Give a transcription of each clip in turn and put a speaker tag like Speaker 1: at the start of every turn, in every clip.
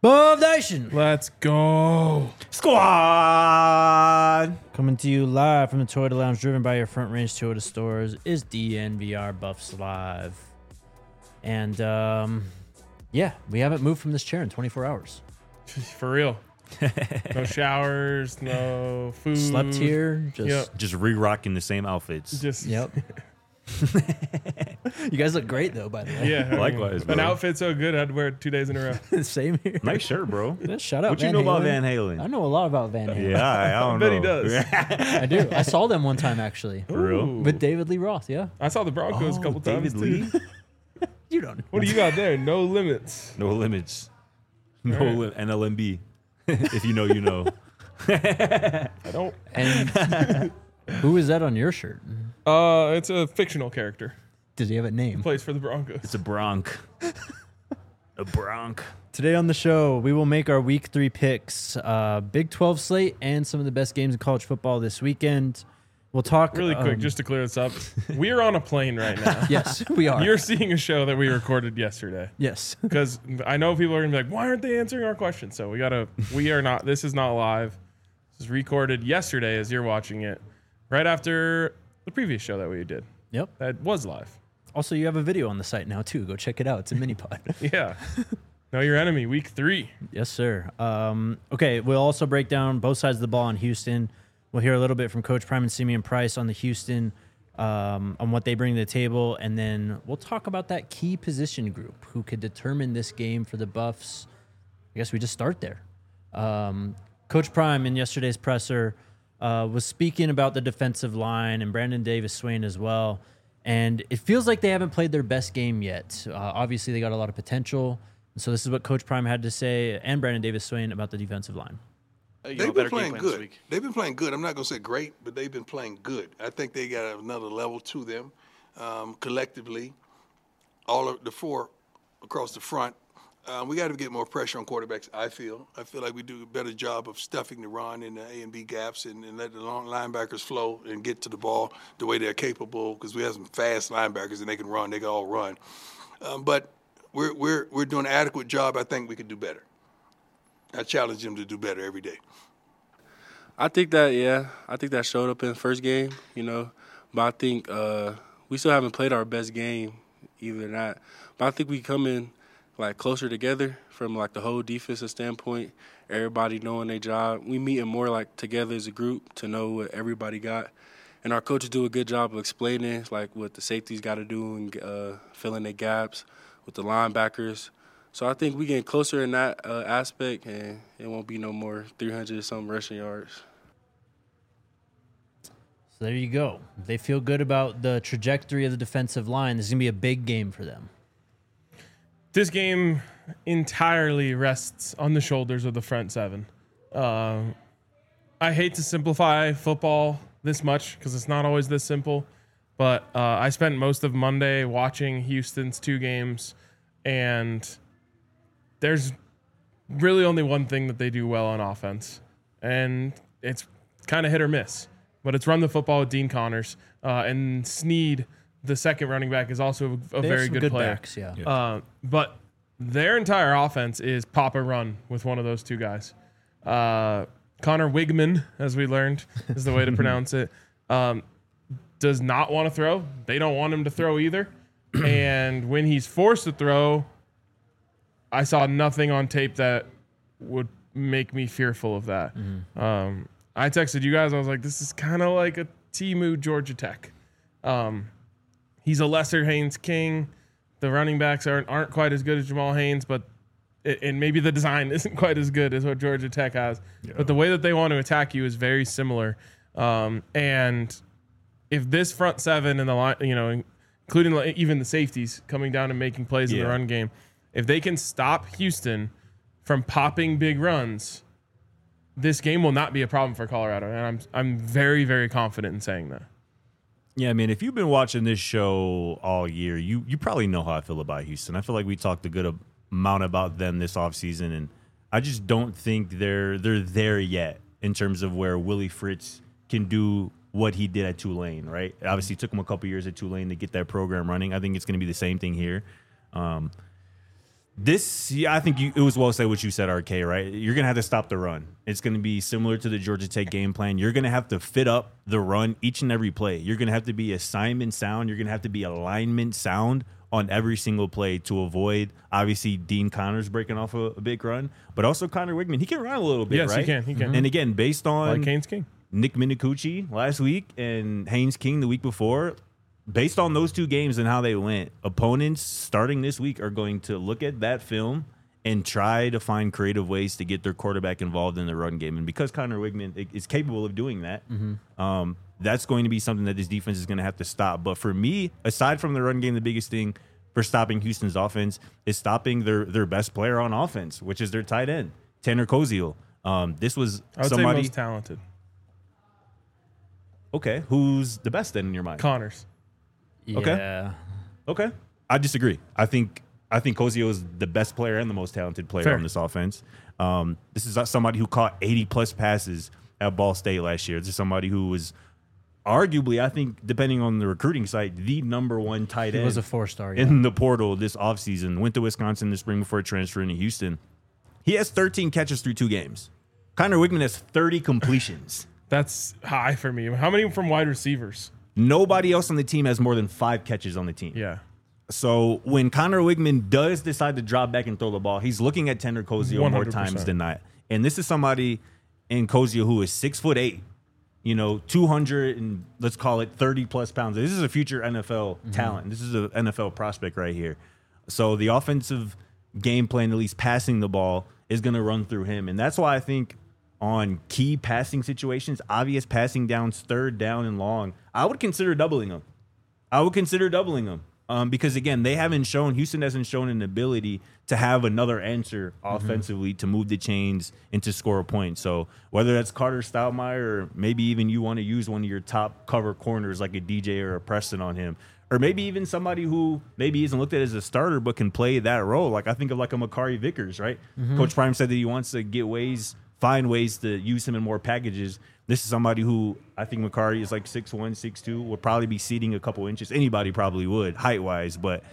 Speaker 1: Buff Nation.
Speaker 2: Let's go.
Speaker 3: Squad!
Speaker 1: Coming to you live from the Toyota Lounge, driven by your Front Range Toyota stores, is DNVR Buffs Live. And, yeah, we haven't moved from this chair in 24 hours.
Speaker 2: For real. No showers, no food.
Speaker 1: Slept here.
Speaker 3: Just re-rocking the same outfits.
Speaker 1: Yep. You guys look great, though, by the way.
Speaker 2: Yeah.
Speaker 3: Likewise, bro.
Speaker 2: An outfit so good, I'd wear it 2 days in a row.
Speaker 1: Same here.
Speaker 3: Nice shirt, bro.
Speaker 1: Shout out
Speaker 3: What
Speaker 1: Van
Speaker 3: you know about
Speaker 1: Halen.
Speaker 3: Van Halen?
Speaker 1: I know a lot about Van Halen.
Speaker 3: Yeah, I don't
Speaker 2: bet
Speaker 3: know.
Speaker 2: he does.
Speaker 1: I do. I saw them one time, actually.
Speaker 3: For real?
Speaker 2: Ooh.
Speaker 1: With David Lee Roth, yeah.
Speaker 2: I saw the Broncos a couple times,
Speaker 3: David Lee?
Speaker 2: too.
Speaker 1: You don't know.
Speaker 2: What do you got there? No limits.
Speaker 3: No limits. No
Speaker 2: Right.
Speaker 3: NLMB. If you know, you know.
Speaker 2: I don't.
Speaker 1: And who is that on your shirt?
Speaker 2: It's a fictional character.
Speaker 1: Does he have a name?
Speaker 2: Plays for the Broncos.
Speaker 3: It's a Bronc. A Bronc.
Speaker 1: Today on the show, we will make our Week 3 picks, Big 12 slate, and some of the best games in college football this weekend. We'll talk
Speaker 2: Really quick, just to clear this up. We're on a plane right now.
Speaker 1: Yes, we are.
Speaker 2: You're seeing a show that we recorded yesterday.
Speaker 1: Yes.
Speaker 2: Because I know people are going to be like, why aren't they answering our questions? So we are not, this is not live. This is recorded yesterday as you're watching it, right after the previous show that we did.
Speaker 1: Yep.
Speaker 2: That was live.
Speaker 1: Also, you have a video on the site now, too. Go check it out. It's a mini pod.
Speaker 2: Yeah. Know your enemy, week 3.
Speaker 1: Yes, sir. Okay, we'll also break down both sides of the ball in Houston. We'll hear a little bit from Coach Prime and Simeon Price on the Houston, on what they bring to the table, and then we'll talk about that key position group who could determine this game for the Buffs. I guess we just start there. Coach Prime in yesterday's presser was speaking about the defensive line and Brandon Davis-Swain as well, and it feels like they haven't played their best game yet. Obviously, they got a lot of potential, so this is what Coach Prime had to say, and Brandon Davis-Swain, about the defensive line.
Speaker 4: They've been playing good. They've been playing good. I'm not going to say great, but they've been playing good. I think they got another level to them collectively. All of the four across the front. We got to get more pressure on quarterbacks, I feel. I feel like we do a better job of stuffing the run in the A and B gaps and let the long linebackers flow and get to the ball the way they're capable, because we have some fast linebackers and they can run. They can all run. But we're doing an adequate job. I think we could do better. I challenge them to do better every day.
Speaker 5: I think that showed up in the first game, But I think we still haven't played our best game either. Not, but I think we come in closer together from the whole defensive standpoint. Everybody knowing their job. We meeting more together as a group to know what everybody got, and our coaches do a good job of explaining what the safeties got to do and filling their gaps with the linebackers. So I think we getting closer in that aspect, and it won't be no more 300-something rushing yards.
Speaker 1: So there you go. They feel good about the trajectory of the defensive line. This is going to be a big game for them.
Speaker 2: This game entirely rests on the shoulders of the front seven. I hate to simplify football this much because it's not always this simple, but I spent most of Monday watching Houston's 2 games, and there's really only one thing that they do well on offense, and it's kind of hit or miss. But it's run the football with Dean Connors. And Snead, the second running back, is also a very good player.
Speaker 1: Backs, yeah.
Speaker 2: But their entire offense is pop or run with one of those 2 guys. Connor Wigman, as we learned, is the way to pronounce it, does not want to throw. They don't want him to throw either. And when he's forced to throw, I saw nothing on tape that would make me fearful of that. Mm-hmm. I texted you guys. I was like, this is kind of like a Temu Georgia Tech. He's a lesser Haynes King. The running backs aren't quite as good as Jamal Haynes, but and maybe the design isn't quite as good as what Georgia Tech has. Yeah. But the way that they want to attack you is very similar. And if this front seven and the line, including even the safeties coming down and making plays in the run game, if they can stop Houston from popping big runs, this game will not be a problem for Colorado, and I'm very, very confident in saying that.
Speaker 3: Yeah, I mean, if you've been watching this show all year, you probably know how I feel about Houston. I feel like we talked a good amount about them this offseason, and I just don't think they're there yet in terms of where Willie Fritz can do what he did at Tulane, right? Obviously, it took him a couple years at Tulane to get that program running. I think it's going to be the same thing here. I think it was well said what you said, RK, right? You're going to have to stop the run. It's going to be similar to the Georgia Tech game plan. You're going to have to fit up the run each and every play. You're going to have to be assignment sound. You're going to have to be alignment sound on every single play to avoid, obviously, Dean Connors breaking off a big run, but also Connor Wigman. He can run a little bit,
Speaker 2: yes,
Speaker 3: right?
Speaker 2: He can.
Speaker 3: And again, based on
Speaker 2: like Haynes King,
Speaker 3: Nick Minicucci last week and Haynes King the week before, based on those two games and how they went, opponents starting this week are going to look at that film and try to find creative ways to get their quarterback involved in the run game. And because Connor Wigman is capable of doing that, that's going to be something that this defense is going to have to stop. But for me, aside from the run game, the biggest thing for stopping Houston's offense is stopping their best player on offense, which is their tight end, Tanner Koziel. This was
Speaker 2: I would
Speaker 3: somebody
Speaker 2: say most talented.
Speaker 3: Okay, who's the best then in your mind?
Speaker 2: Connors.
Speaker 1: Yeah.
Speaker 3: Okay. I disagree. I think Koziel is the best player and the most talented player
Speaker 2: Fair.
Speaker 3: on this offense. This is somebody who caught 80-plus passes at Ball State last year. This is somebody who was arguably, I think, depending on the recruiting site, the number one tight end.
Speaker 1: He was a 4-star. Yeah.
Speaker 3: In the portal this offseason. Went to Wisconsin this spring before transferring to Houston. He has 13 catches through 2 games. Connor Wigman has 30 completions.
Speaker 2: That's high for me. How many from wide receivers?
Speaker 3: Nobody else on the team has more than 5 catches on the team.
Speaker 2: Yeah.
Speaker 3: So when Connor Wigman does decide to drop back and throw the ball, he's looking at Tanner Koziel more
Speaker 2: 100%.
Speaker 3: times than not. And this is somebody in Koziel who is 6'8", 200 and let's call it 30-plus pounds. This is a future NFL talent. This is an NFL prospect right here. So the offensive game plan, at least passing the ball, is going to run through him. And that's why I think on key passing situations, obvious passing downs, 3rd down and long, I would consider doubling them. Because, again, Houston hasn't shown an ability to have another answer offensively to move the chains and to score a point. So whether that's Carter Stoudemire or maybe even you want to use one of your top cover corners like a DJ or a Preston on him, or maybe even somebody who maybe isn't looked at as a starter but can play that role. Like I think of like a Makari Vickers, right? Coach Prime said that he wants to find ways to use him in more packages. This is somebody who I think Makari is like 6'1", 6'2", would probably be ceding a couple inches. Anybody probably would, height-wise. But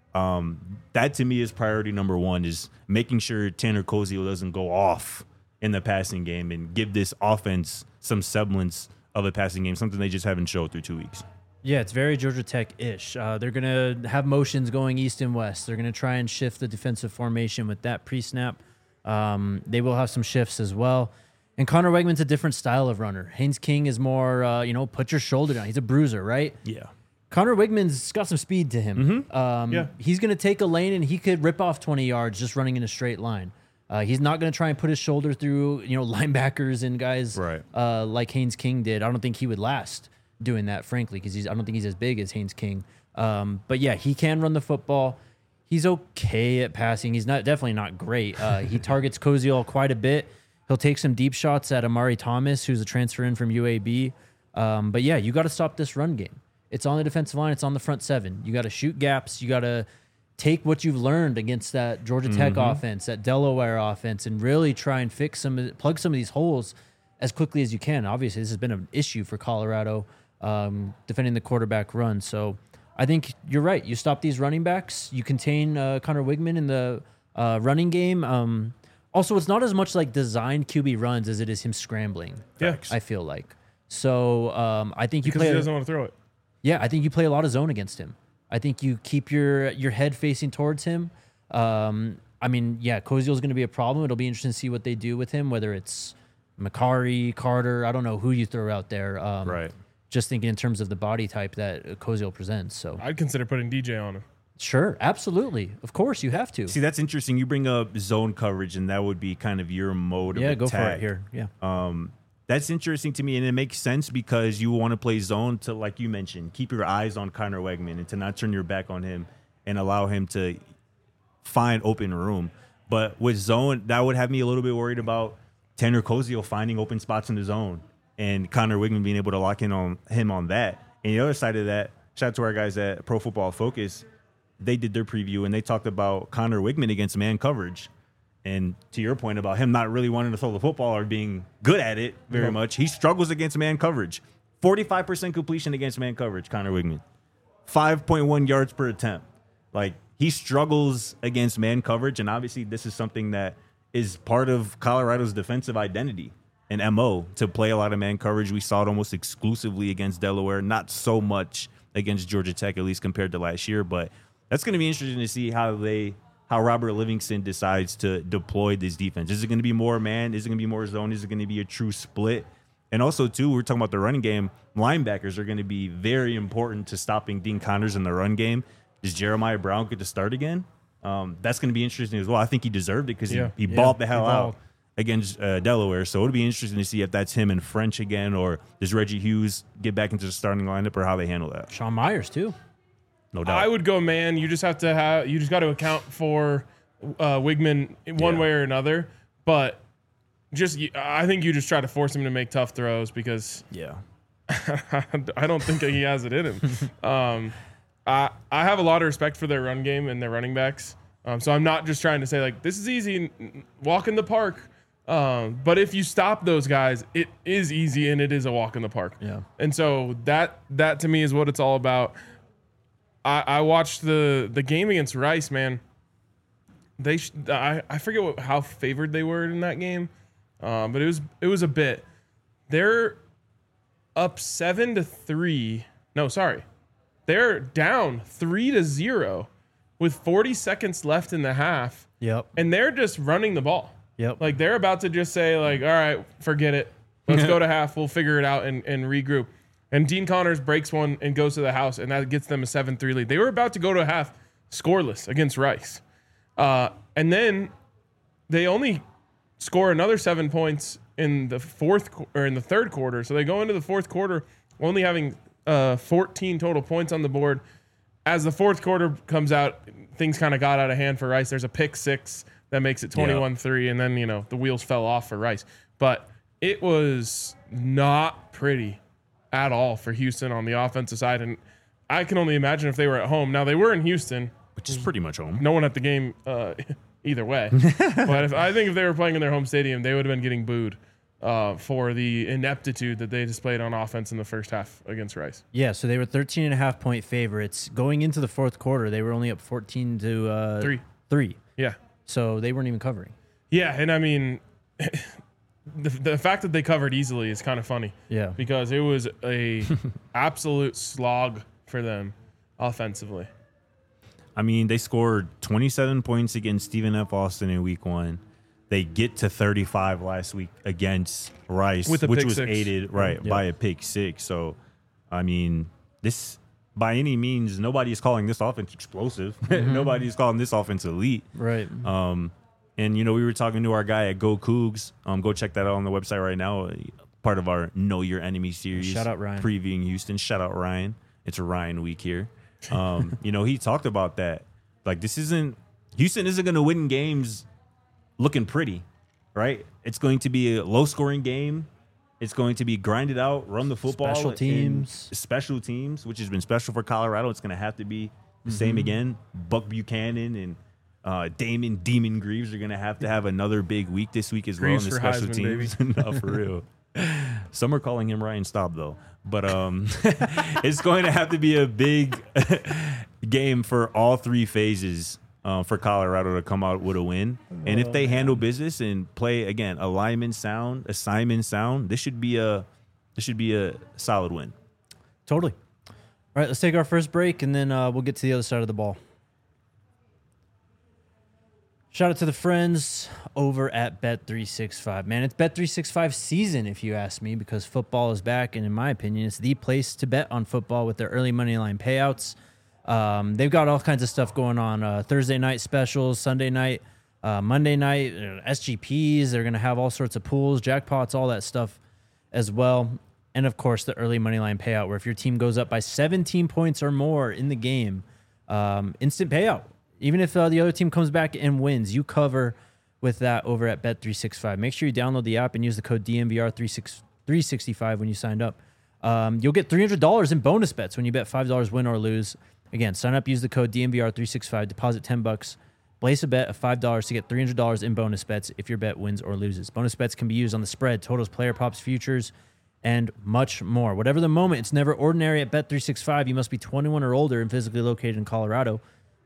Speaker 3: that to me is priority number one, is making sure Tanner Koziel doesn't go off in the passing game and give this offense some semblance of a passing game, something they just haven't showed through 2 weeks.
Speaker 1: Yeah, it's very Georgia Tech-ish. They're going to have motions going east and west. They're going to try and shift the defensive formation with that pre-snap. They will have some shifts as well. And Connor Wegman's a different style of runner. Haynes King is more, put your shoulder down. He's a bruiser, right?
Speaker 3: Yeah.
Speaker 1: Connor Wigman's got some speed to him.
Speaker 2: Yeah.
Speaker 1: He's going to take a lane and he could rip off 20 yards just running in a straight line. He's not going to try and put his shoulder through, linebackers and guys like Haynes King did. I don't think he would last doing that, frankly, because I don't think he's as big as Haynes King. But yeah, he can run the football. He's okay at passing. He's definitely not great. He targets Koziel quite a bit. He'll take some deep shots at Amari Thomas, who's a transfer in from UAB. But yeah, you got to stop this run game. It's on the defensive line. It's on the front 7. You got to shoot gaps. You got to take what you've learned against that Georgia Tech offense, that Delaware offense, and really try and plug some of these holes as quickly as you can. Obviously, this has been an issue for Colorado defending the quarterback run. So I think you're right. You stop these running backs. You contain Connor Wigman in the running game. Also, it's not as much like designed QB runs as it is him scrambling.
Speaker 2: Yeah.
Speaker 1: I feel like. So I think
Speaker 2: because he doesn't want to throw it.
Speaker 1: Yeah, I think you play a lot of zone against him. I think you keep your head facing towards him. Koziel's going to be a problem. It'll be interesting to see what they do with him, whether it's Makari, Carter. I don't know who you throw out there.
Speaker 3: Right.
Speaker 1: Just thinking in terms of the body type that Koziel presents. So
Speaker 2: I'd consider putting DJ on him.
Speaker 1: Sure, absolutely. Of course, you have to.
Speaker 3: See, that's interesting. You bring up zone coverage, and that would be kind of your mode of attack.
Speaker 1: Yeah, go for it here. Yeah.
Speaker 3: That's interesting to me, and it makes sense because you want to play zone to, like you mentioned, keep your eyes on Connor Wegman and to not turn your back on him and allow him to find open room. But with zone, that would have me a little bit worried about Tanner Koziel finding open spots in the zone and Connor Wigman being able to lock in on him on that. And the other side of that, shout out to our guys at Pro Football Focus, they did their preview and they talked about Connor Wigman against man coverage. And to your point about him not really wanting to throw the football or being good at it very much, he struggles against man coverage. 45% completion against man coverage, Connor Wigman. 5.1 yards per attempt. Like, he struggles against man coverage, and obviously this is something that is part of Colorado's defensive identity and MO to play a lot of man coverage. We saw it almost exclusively against Delaware, not so much against Georgia Tech, at least compared to last year. But that's going to be interesting to see how Robert Livingston decides to deploy this defense. Is it going to be more man? Is it going to be more zone? Is it going to be a true split? And also, too, we're talking about the running game. Linebackers are going to be very important to stopping Dean Connors in the run game. Does Jeremiah Brown get to start again? That's going to be interesting as well. I think he deserved it because he balled the hell out against Delaware. So it'll be interesting to see if that's him and French again, or does Reggie Hughes get back into the starting lineup, or how they handle that.
Speaker 1: Sean Myers, too.
Speaker 3: No doubt.
Speaker 2: I would go man. You just got to account for Wigman one way or another. But I think you just try to force him to make tough throws because I don't think he has it in him. I have a lot of respect for their run game and their running backs. So I'm not just trying to say like this is easy, walk in the park. But if you stop those guys, it is easy and it is a walk in the park.
Speaker 1: Yeah. And
Speaker 2: so that to me is what it's all about. I watched the game against Rice, man. I forget how favored they were in that game, but it was a bit. They're up 7-3. No, sorry, they're down 3-0 with 40 seconds left in the half.
Speaker 1: Yep.
Speaker 2: And they're just running the ball.
Speaker 1: Yep.
Speaker 2: Like they're about to just say like, all right, forget it. Let's go to half. We'll figure it out and regroup. And Dean Connors breaks one and goes to the house, and that gets them a 7-3 lead. They were about to go to half scoreless against Rice. And then they only score another 7 points in the third quarter. So they go into the fourth quarter only having 14 total points on the board. As the fourth quarter comes out, things kind of got out of hand for Rice. There's a pick six that makes it 21-3, and then, the wheels fell off for Rice. But it was not pretty at all for Houston on the offensive side. And I can only imagine if they were at home. Now, they were in Houston.
Speaker 3: Which is pretty much home.
Speaker 2: No one at the game either way. But I think if they were playing in their home stadium, they would have been getting booed for the ineptitude that they displayed on offense in the first half against Rice.
Speaker 1: Yeah, so they were 13.5-point favorites. Going into the fourth quarter, they were only up 14-3.
Speaker 2: Yeah.
Speaker 1: So they weren't even covering.
Speaker 2: Yeah, and I mean... The fact that they covered easily is kind of funny.
Speaker 1: Yeah.
Speaker 2: Because it was a absolute slog for them offensively.
Speaker 3: I mean, they scored 27 points against Stephen F. Austin in week 1. They get to 35 last week against Rice, which was aided by a pick six. So, I mean, this by any means, nobody is calling this offense explosive. Nobody is calling this offense elite.
Speaker 1: Right.
Speaker 3: And, we were talking to our guy at Go Cougs. Go check that out on the website right now. Part of our Know Your Enemy series.
Speaker 1: Shout out Ryan.
Speaker 3: Previewing Houston. Shout out Ryan. It's a Ryan week here. He talked about that. Like, Houston isn't going to win games looking pretty, right? It's going to be a low-scoring game. It's going to be grinded out, run the football. Special teams, which has been special for Colorado. It's going to have to be the same again. Buck Buchanan and Damon Demon Greaves are going to have another big week this week as
Speaker 2: Greaves
Speaker 3: well in the special
Speaker 2: Heisman,
Speaker 3: teams. No, for real. Some are calling him Ryan Staub, though. But it's going to have to be a big game for all three phases for Colorado to come out with a win. And if they handle business and play, again, alignment sound, assignment sound, this should be a solid win.
Speaker 1: Totally. All right, let's take our first break, and then we'll get to the other side of the ball. Shout out to the friends over at Bet365. Man, it's Bet365 season, if you ask me, because football is back, and in my opinion, it's the place to bet on football with their early money line payouts. They've got all kinds of stuff going on. Thursday night specials, Sunday night, Monday night, SGPs. They're going to have all sorts of pools, jackpots, all that stuff as well. And, of course, the early money line payout, where if your team goes up by 17 points or more in the game, instant payout. Even if the other team comes back and wins, you cover with that over at Bet365. Make sure you download the app and use the code DNVR365 when you signed up. You'll get $300 in bonus bets when you bet $5 win or lose. Again, sign up, use the code DNVR365, deposit $10, place a bet of $5 to get $300 in bonus bets if your bet wins or loses. Bonus bets can be used on the spread, totals, player props, futures, and much more. Whatever the moment, it's never ordinary at Bet365. You must be 21 or older and physically located in Colorado.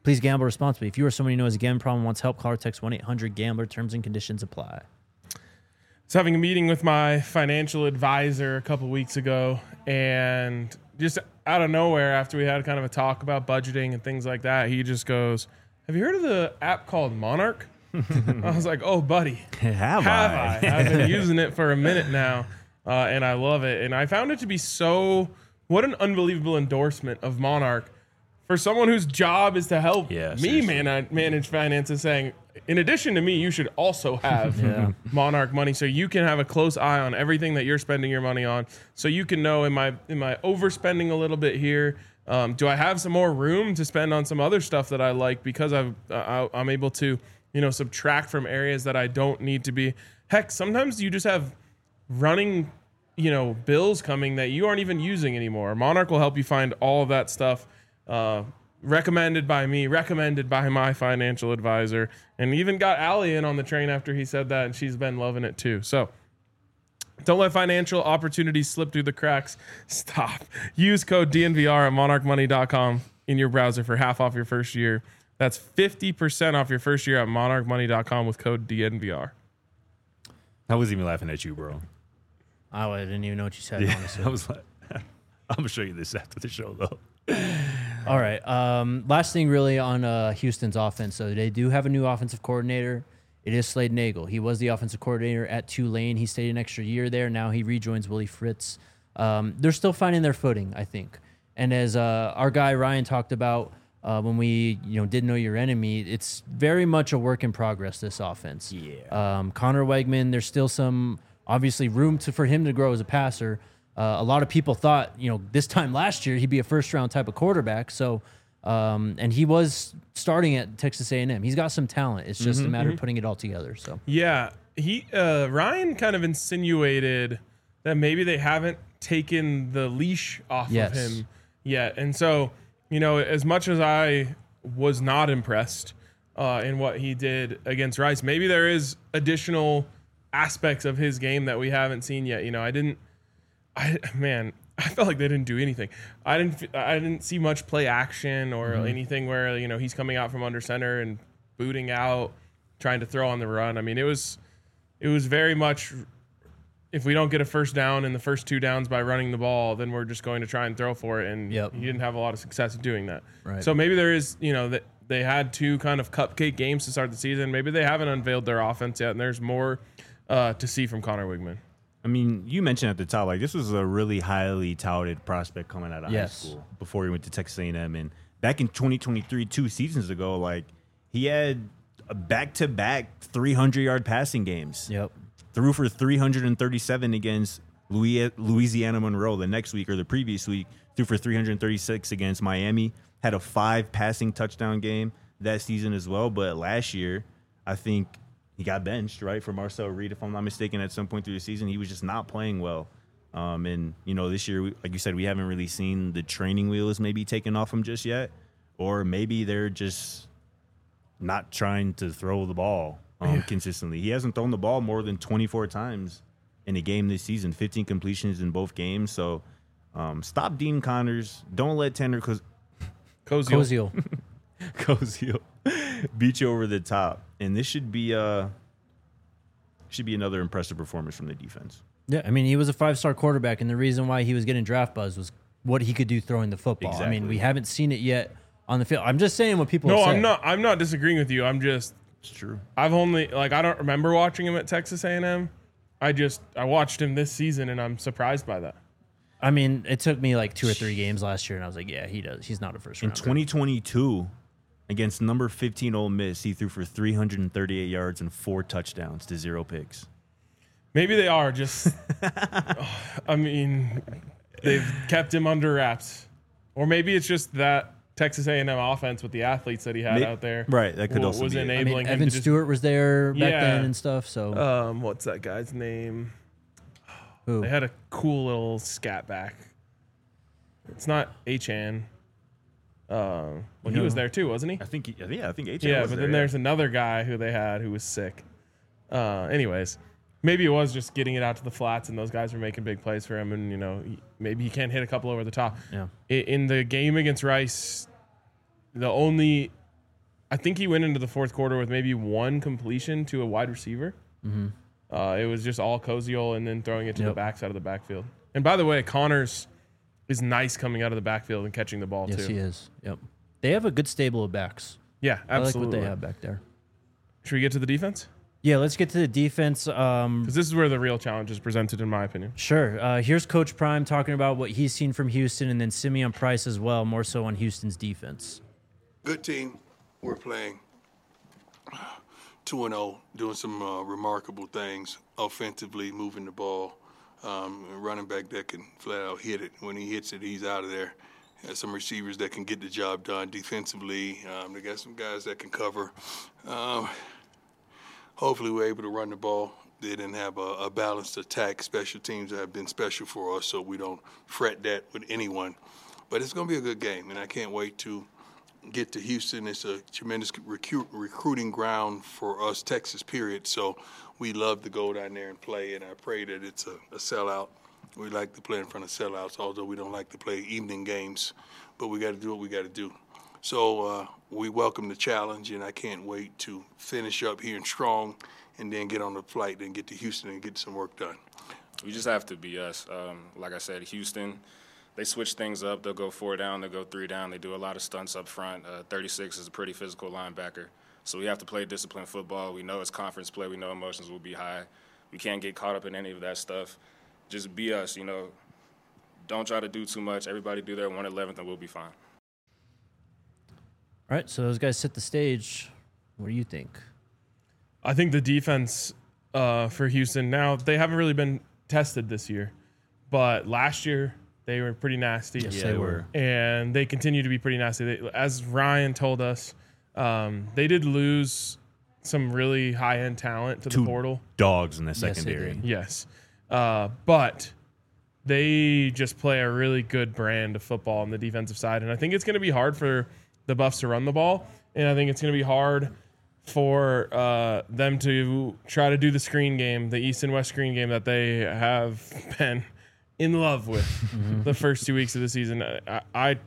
Speaker 1: Please gamble responsibly. If you or someone you know has a gambling problem and wants help, call or text 1-800-GAMBLER. Terms and conditions apply.
Speaker 2: I was having a meeting with my financial advisor a couple weeks ago, and just out of nowhere, after we had kind of a talk about budgeting and things like that, he just goes, "Have you heard of the app called Monarch?" I was like, "Oh, buddy,
Speaker 3: Have I?
Speaker 2: I've been using it for a minute now, and I love it." And I found it to be what an unbelievable endorsement of Monarch for someone whose job is to help me manage finances, saying, in addition to me, you should also have Monarch money, so you can have a close eye on everything that you're spending your money on, so you can know, am I overspending a little bit here? Do I have some more room to spend on some other stuff that I like, because I'm able to, subtract from areas that I don't need to be. Heck, sometimes you just have running, bills coming that you aren't even using anymore. Monarch will help you find all of that stuff. Recommended by me, recommended by my financial advisor, and even got Allie in on the train after he said that, and she's been loving it too. So don't let financial opportunities slip through the cracks. Stop. Use code DNVR at monarchmoney.com in your browser for half off your first year. That's 50% off your first year at monarchmoney.com with code DNVR.
Speaker 3: I was even laughing at you, bro.
Speaker 1: I didn't even know what you said, honestly.
Speaker 3: I was like, I'm going to show you this after the show, though.
Speaker 1: All right. Last thing really on Houston's offense. So they do have a new offensive coordinator. It is Slade Nagel. He was the offensive coordinator at Tulane. He stayed an extra year there. Now he rejoins Willie Fritz. They're still finding their footing, I think. And as our guy Ryan talked about when we didn't know your enemy, it's very much a work in progress, this offense.
Speaker 3: Yeah.
Speaker 1: Connor Wegman, there's still some obviously room for him to grow as a passer. A lot of people thought, this time last year he'd be a first-round type of quarterback. So, and he was starting at Texas A&M. He's got some talent. It's just a matter of putting it all together. So
Speaker 2: yeah, Ryan kind of insinuated that maybe they haven't taken the leash off of him yet. And so, as much as I was not impressed in what he did against Rice, maybe there is additional aspects of his game that we haven't seen yet. I felt like they didn't do anything. I didn't see much play action or anything where he's coming out from under center and booting out, trying to throw on the run. I mean, it was very much, if we don't get a first down in the first two downs by running the ball, then we're just going to try and throw for it. And he didn't have a lot of success in doing that.
Speaker 1: Right.
Speaker 2: So maybe there is, that they had two kind of cupcake games to start the season. Maybe they haven't unveiled their offense yet, and there's more to see from Connor Wigman.
Speaker 3: I mean, you mentioned at the top, this was a really highly touted prospect coming out of high school before he went to Texas A&M. And back in 2023, 2 seasons ago, he had a back-to-back 300-yard passing games.
Speaker 1: Yep.
Speaker 3: Threw for 337 against Louisiana Monroe the next week or the previous week. Threw for 336 against Miami. Had a 5 passing touchdown game that season as well. But last year, I think he got benched, right, for Marcel Reed, if I'm not mistaken, at some point through the season. He was just not playing well. And, this year, like you said, we haven't really seen the training wheels maybe taken off him just yet. Or maybe they're just not trying to throw the ball consistently. He hasn't thrown the ball more than 24 times in a game this season, 15 completions in both games. So stop Dean Connors. Don't let Tanner Koziel beat you over the top. And this should be another impressive performance from the defense.
Speaker 1: Yeah, I mean, he was a 5-star quarterback, and the reason why he was getting draft buzz was what he could do throwing the football.
Speaker 3: Exactly.
Speaker 1: I mean, we haven't seen it yet on the field. I'm just saying what people have said.
Speaker 2: I'm not disagreeing with you. It's
Speaker 3: true.
Speaker 2: I've only, I don't remember watching him at Texas A&M. I watched him this season, and I'm surprised by that.
Speaker 1: I mean, it took me 2 or 3 games last year, and I was like, yeah, he does. He's not a first-rounder.
Speaker 3: In 2022, against number 15 Ole Miss, he threw for 338 yards and 4 touchdowns to 0 picks.
Speaker 2: Maybe they are just, they've kept him under wraps. Or maybe it's just that Texas A&M offense with the athletes that he had out there.
Speaker 3: Right, that could also
Speaker 2: was
Speaker 3: be
Speaker 2: enabling him
Speaker 1: Evan
Speaker 2: to
Speaker 1: Stewart was there back then and stuff. So
Speaker 2: what's that guy's name?
Speaker 1: Who?
Speaker 2: They had a cool little scat back. It's not H-An. He was there too, wasn't he?
Speaker 3: I think H.A.
Speaker 2: Yeah,
Speaker 3: was
Speaker 2: but
Speaker 3: there,
Speaker 2: then there's another guy who they had who was sick. Anyways, maybe it was just getting it out to the flats, and those guys were making big plays for him, and maybe he can't hit a couple over the top.
Speaker 1: Yeah.
Speaker 2: In the game against Rice, the only I think he went into the fourth quarter with maybe one completion to a wide receiver.
Speaker 1: Mm-hmm.
Speaker 2: It was just all Koziol and then throwing it to the backside of the backfield. And by the way, Connors is nice coming out of the backfield and catching the ball too.
Speaker 1: Yes, he is. Yep. They have a good stable of backs.
Speaker 2: Yeah, absolutely.
Speaker 1: I like what they have back there.
Speaker 2: Should we get to the defense?
Speaker 1: Yeah, let's get to the defense.
Speaker 2: Because this is where the real challenge is presented, in my opinion.
Speaker 1: Sure. Here's Coach Prime talking about what he's seen from Houston, and then Simeon Price as well, more so on Houston's defense.
Speaker 4: Good team. We're playing 2-0, doing some remarkable things offensively, moving the ball. Running back that can flat out hit it. When he hits it, he's out of there. There's some receivers that can get the job done defensively. They got some guys that can cover. Hopefully we're able to run the ball. They didn't have a balanced attack. Special teams have been special for us, so we don't fret that with anyone. But it's going to be a good game, and I can't wait to get to Houston. It's a tremendous recruiting ground for us, Texas, period. So we love to go down there and play, and I pray that it's a sellout. We like to play in front of sellouts, although we don't like to play evening games. But we got to do what we got to do. So we welcome the challenge, and I can't wait to finish up here strong and then get on the flight and get to Houston and get some work done.
Speaker 6: We just have to be us. Like I said, Houston, they switch things up. They'll go 4 down. They'll go 3 down. They do a lot of stunts up front. 36 is a pretty physical linebacker. So we have to play disciplined football. We know it's conference play. We know emotions will be high. We can't get caught up in any of that stuff. Just be us, you know. Don't try to do too much. Everybody do their 1/11 and we'll be fine.
Speaker 1: All right, so those guys set the stage. What do you think?
Speaker 2: I think the defense for Houston, now they haven't really been tested this year, but last year they were pretty nasty.
Speaker 1: Yes, they were.
Speaker 2: And they continue to be pretty nasty. As Ryan told us, they did lose some really high-end talent to the portal.
Speaker 3: Dogs in the
Speaker 1: Yes, they
Speaker 3: secondary.
Speaker 1: did.
Speaker 2: Yes. But they just play a really good brand of football on the defensive side. And I think it's going to be hard for the Buffs to run the ball. And I think it's going to be hard for them to try to do the screen game, the East and West screen game that they have been in love with the first 2 weeks of the season. I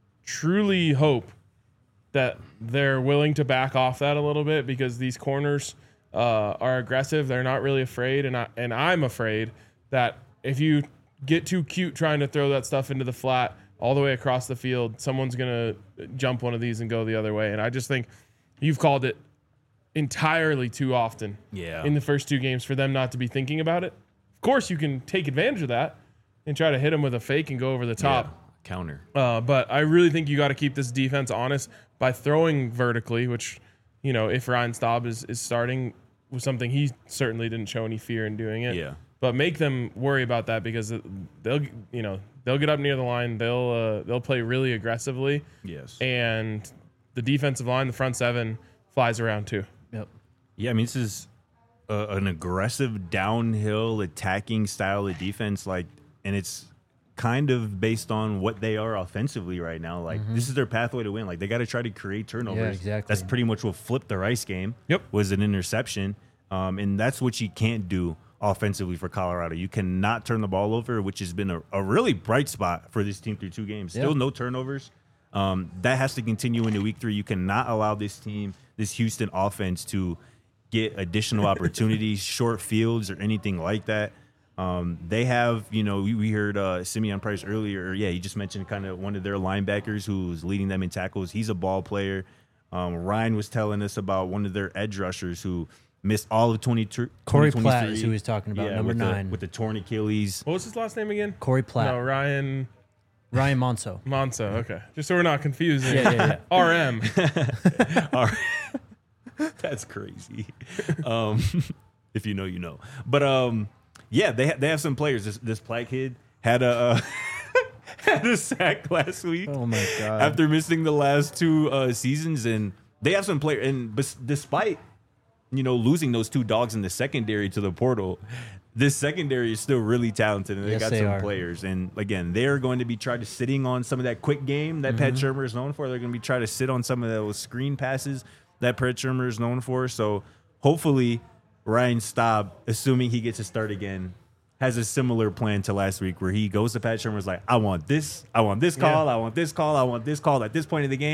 Speaker 2: truly hope that they're willing to back off that a little bit, because these corners are aggressive. They're not really afraid, and I'm afraid that if you get too cute trying to throw that stuff into the flat all the way across the field, someone's going to jump one of these and go the other way. And I just think you've called it entirely too often in the first 2 games for them not to be thinking about it. Of course, you can take advantage of that and try to hit them with a fake and go over the top.
Speaker 3: Counter.
Speaker 2: But I really think you got to keep this defense honest by throwing vertically, which, you know, if Ryan Staub is starting with something, he certainly didn't show any fear in doing it.
Speaker 3: Yeah.
Speaker 2: But make them worry about that, because they'll get up near the line. They'll play really aggressively.
Speaker 3: Yes.
Speaker 2: And the defensive line, the front 7, flies around too.
Speaker 1: Yep.
Speaker 3: Yeah, I mean, this is an aggressive downhill attacking style of defense, and it's kind of based on what they are offensively right now. This is their pathway to win. They got to try to create turnovers.
Speaker 1: Yeah, exactly.
Speaker 3: That's pretty much what flipped the Rice game.
Speaker 2: Yep.
Speaker 3: Was an interception, and that's what you can't do offensively for Colorado. You cannot turn the ball over, which has been a really bright spot for this team through 2 games. Still no turnovers. That has to continue into week 3. You cannot allow this Houston offense to get additional opportunities, short fields, or anything like that. They have, we heard Simeon Price earlier. Yeah, he just mentioned kind of one of their linebackers who's leading them in tackles. He's a ball player. Ryan was telling us about one of their edge rushers who missed all of 2023.
Speaker 1: Corey Platt is who he's talking about, number 9.
Speaker 3: With the torn Achilles.
Speaker 2: What was his last name again?
Speaker 1: Corey Platt.
Speaker 2: No, Ryan
Speaker 1: Monso.
Speaker 2: Monso. Okay, just so we're not confusing.
Speaker 1: Yeah.
Speaker 2: RM.
Speaker 3: All right. That's crazy. If you know, you know. But yeah, they have some players. This Platt kid had a sack last week.
Speaker 1: Oh my god!
Speaker 3: After missing the last 2 seasons, and they have some players. And despite losing those 2 dogs in the secondary to the portal, this secondary is still really talented, and they got some players. And again, they're going to be trying to sitting on some of that quick game that Pat Shurmur is known for. They're going to be trying to sit on some of those screen passes that Pat Shurmur is known for. So hopefully Ryan Staub, assuming he gets to start again, has a similar plan to last week, where he goes to Pat Shurmur, is like, I want this call, I want this call, I want this call at this point of the game,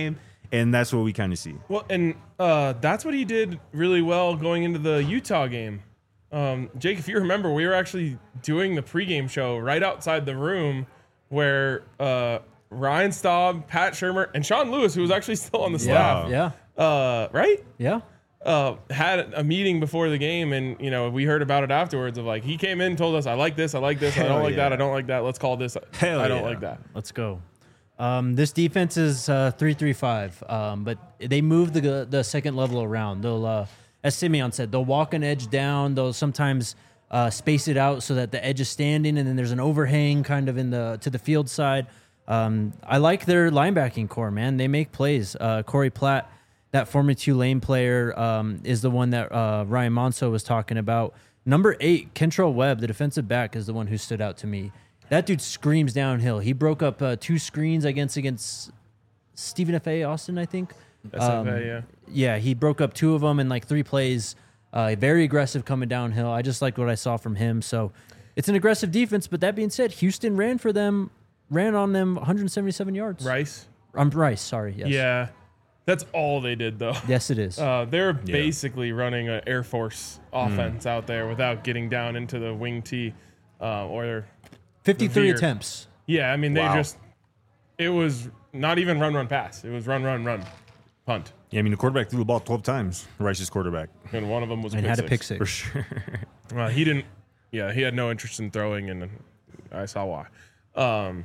Speaker 3: And that's what we kind of see.
Speaker 2: Well, and that's what he did really well going into the Utah game. Jake, if you remember, we were actually doing the pregame show right outside the room where Ryan Staub, Pat Shurmur, and Sean Lewis, who was actually still on the staff.
Speaker 1: Yeah.
Speaker 2: Right?
Speaker 1: Yeah.
Speaker 2: Had a meeting before the game, and we heard about it afterwards. Of like, he came in, told us, "I like this, I like this, I don't like that, I don't like that. Let's call this. I don't like that."
Speaker 1: Let's go. This defense is 3-3-5, but they move the second level around. They'll, as Simeon said, they'll walk an edge down. They'll sometimes space it out so that the edge is standing, and then there's an overhang kind of to the field side. I like their linebacking core, man. They make plays. Corey Platt, that former Tulane player, is the one that Ryan Monso was talking about. Number 8, Kentrell Webb, the defensive back, is the one who stood out to me. That dude screams downhill. He broke up 2 screens against Stephen F.A. Austin, I think.
Speaker 2: SFA, yeah.
Speaker 1: Yeah, he broke up 2 of them in like 3 plays. Very aggressive coming downhill. I just liked what I saw from him. So it's an aggressive defense. But that being said, Houston ran on them 177 yards.
Speaker 2: Rice?
Speaker 1: Rice, sorry. Yes.
Speaker 2: Yeah. That's all they did, though.
Speaker 1: Yes, it is.
Speaker 2: They're basically running an Air Force offense out there without getting down into the wing T or
Speaker 1: 53 attempts.
Speaker 2: Yeah, I mean, it was not even run, pass. It was run, punt.
Speaker 3: Yeah, I mean, the quarterback threw the ball 12 times, Rice's quarterback.
Speaker 2: And one of them was
Speaker 1: and had a pick six.
Speaker 3: For sure.
Speaker 2: He didn't, he had no interest in throwing, and I saw why.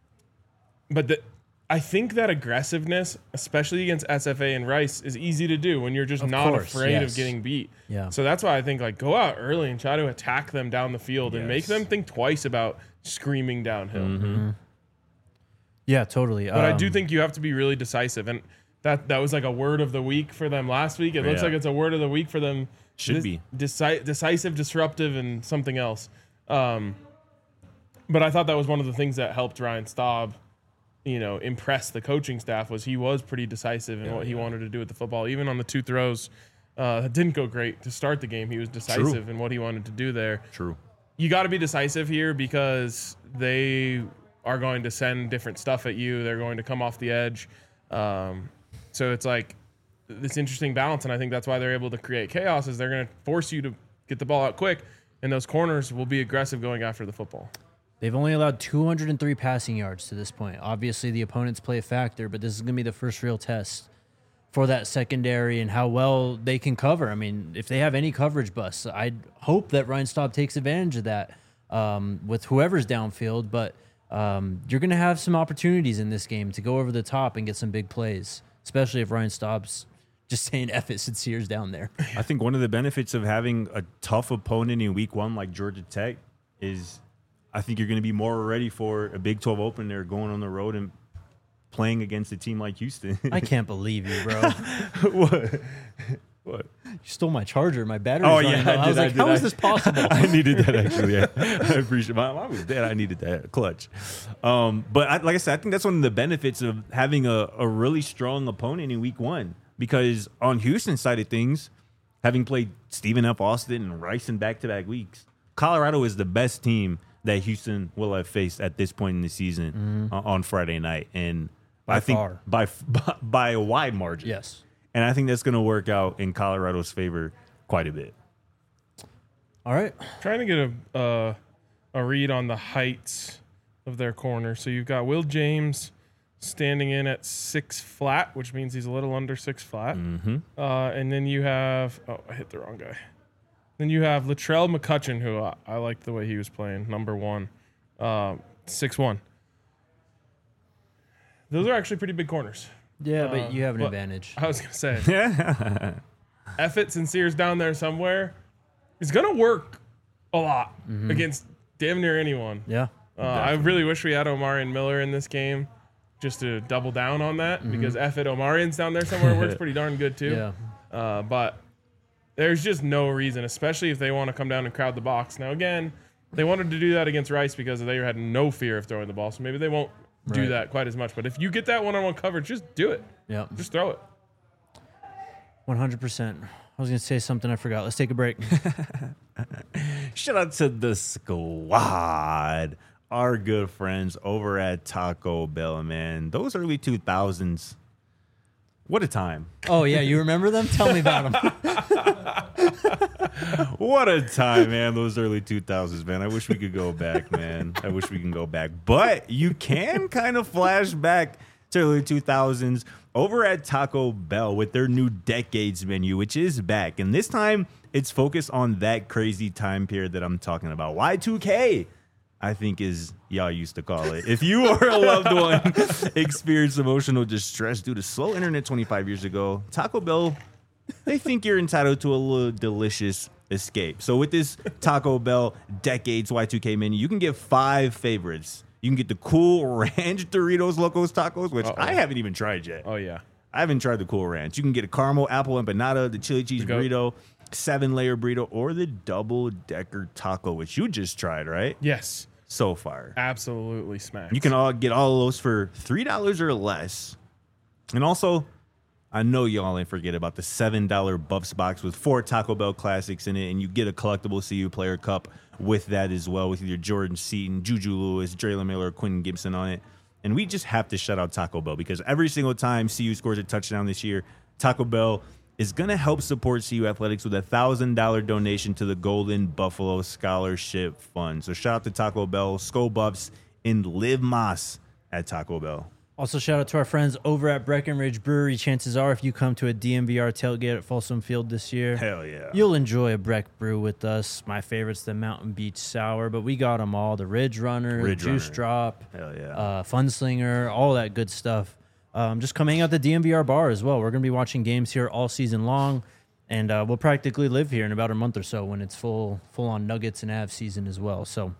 Speaker 2: But I think that aggressiveness, especially against SFA and Rice, is easy to do when you're just afraid of getting beat.
Speaker 1: Yeah.
Speaker 2: So that's why I think, like, go out early and try to attack them down the field and make them think twice about screaming downhill.
Speaker 1: Mm-hmm. Yeah, totally.
Speaker 2: But I do think you have to be really decisive. And that was like a word of the week for them last week. It looks like it's a word of the week for them.
Speaker 3: Should be.
Speaker 2: Decisive, disruptive, and something else. But I thought that was one of the things that helped Ryan Staub impress the coaching staff. Was he was pretty decisive in what he wanted to do with the football. Even on the 2 throws that didn't go great to start the game, he was decisive in what he wanted to do there.
Speaker 3: True.
Speaker 2: You got to be decisive here because they are going to send different stuff at you. They're going to come off the edge. So it's like this interesting balance, and I think that's why they're able to create chaos, is they're going to force you to get the ball out quick, and those corners will be aggressive going after the football.
Speaker 1: They've only allowed 203 passing yards to this point. Obviously, the opponents play a factor, but this is going to be the first real test for that secondary and how well they can cover. I mean, if they have any coverage busts, I'd hope that Ryan Staub takes advantage of that with whoever's downfield. But you're going to have some opportunities in this game to go over the top and get some big plays, especially if Ryan Staub's just saying F it since Sears down there.
Speaker 3: I think one of the benefits of having a tough opponent in week 1 like Georgia Tech is I think you're going to be more ready for a Big 12 opener going on the road and playing against a team like Houston.
Speaker 1: I can't believe you, bro.
Speaker 3: What?
Speaker 1: You stole my charger. My battery's
Speaker 3: running
Speaker 1: low. I was like, how is this possible?
Speaker 3: I needed that, actually. Yeah. I appreciate it. Mine was dead. I needed that clutch. But like I said, I think that's one of the benefits of having a really strong opponent in week 1. Because on Houston's side of things, having played Stephen F. Austin and Rice in back-to-back weeks, Colorado is the best team that Houston will have faced at this point in the season on Friday night. And I think by a wide margin.
Speaker 1: Yes.
Speaker 3: And I think that's going to work out in Colorado's favor quite a bit.
Speaker 1: All right.
Speaker 2: Trying to get a read on the heights of their corner. So you've got Will James standing in at 6 flat, which means he's a little under 6 flat.
Speaker 3: Mm-hmm.
Speaker 2: And then you have I hit the wrong guy. Then you have Latrell McCutcheon, who I liked the way he was playing, number 1, 6'1". Those are actually pretty big corners.
Speaker 1: Yeah, but you have an advantage.
Speaker 2: I was going to say, Effett and Sears down there somewhere is going to work a lot against damn near anyone.
Speaker 1: Yeah.
Speaker 2: I really wish we had Omarion Miller in this game just to double down on that because Effett Omarion's down there somewhere works pretty darn good too.
Speaker 1: Yeah.
Speaker 2: But there's just no reason, especially if they want to come down and crowd the box. Now, again, they wanted to do that against Rice because they had no fear of throwing the ball, so maybe they won't do that quite as much. But if you get that one-on-one coverage, just do it.
Speaker 1: Yeah.
Speaker 2: Just throw it.
Speaker 1: 100%. I was going to say something I forgot. Let's take a break.
Speaker 3: Shout out to the squad, our good friends over at Taco Bell, man. Those early 2000s, What a time.
Speaker 1: Oh, yeah. You remember them? Tell me about them.
Speaker 3: What a time, man. Those early 2000s, man. I wish we could go back, man. I wish we can go back. But you can kind of flash back to early 2000s over at Taco Bell with their new Decades menu, which is back. And this time, it's focused on that crazy time period that I'm talking about. Y2K, I think is y'all used to call it. If you or a loved one experienced emotional distress due to slow internet 25 years ago, Taco Bell, they think you're entitled to a little delicious escape. So with this Taco Bell Decades Y2K menu, you can get 5 favorites. You can get the cool ranch Doritos Locos Tacos, which I haven't even tried yet.
Speaker 2: Oh, yeah.
Speaker 3: I haven't tried the cool ranch. You can get a caramel apple empanada, the chili cheese burrito, 7-layer burrito, or the double-decker taco, which you just tried, right?
Speaker 2: Yes.
Speaker 3: So far.
Speaker 2: Absolutely smacked.
Speaker 3: You can all get all of those for $3 or less. And also, I know y'all ain't forget about the $7 Buffs box with 4 Taco Bell classics in it, and you get a collectible CU player cup with that as well, with either Jordan Seaton, Juju Lewis, Draylen Miller, or Quentin Gibson on it. And we just have to shout out Taco Bell because every single time CU scores a touchdown this year, Taco Bell is going to help support CU Athletics with a $1,000 donation to the Golden Buffalo Scholarship Fund. So shout out to Taco Bell, Skull Buffs, and Liv Moss at Taco Bell.
Speaker 1: Also, shout out to our friends over at Breckenridge Brewery. Chances are, if you come to a DMVR tailgate at Folsom Field this year,
Speaker 3: hell yeah,
Speaker 1: you'll enjoy a Breck brew with us. My favorite's the Mountain Beach Sour, but we got them all. The Ridge Runner, Juice Drop,
Speaker 3: hell yeah,
Speaker 1: Funslinger, all that good stuff. Just come hang out at the DMVR bar as well. We're going to be watching games here all season long, and we'll practically live here in about a month or so when it's full-on Nuggets and Avs season as well. So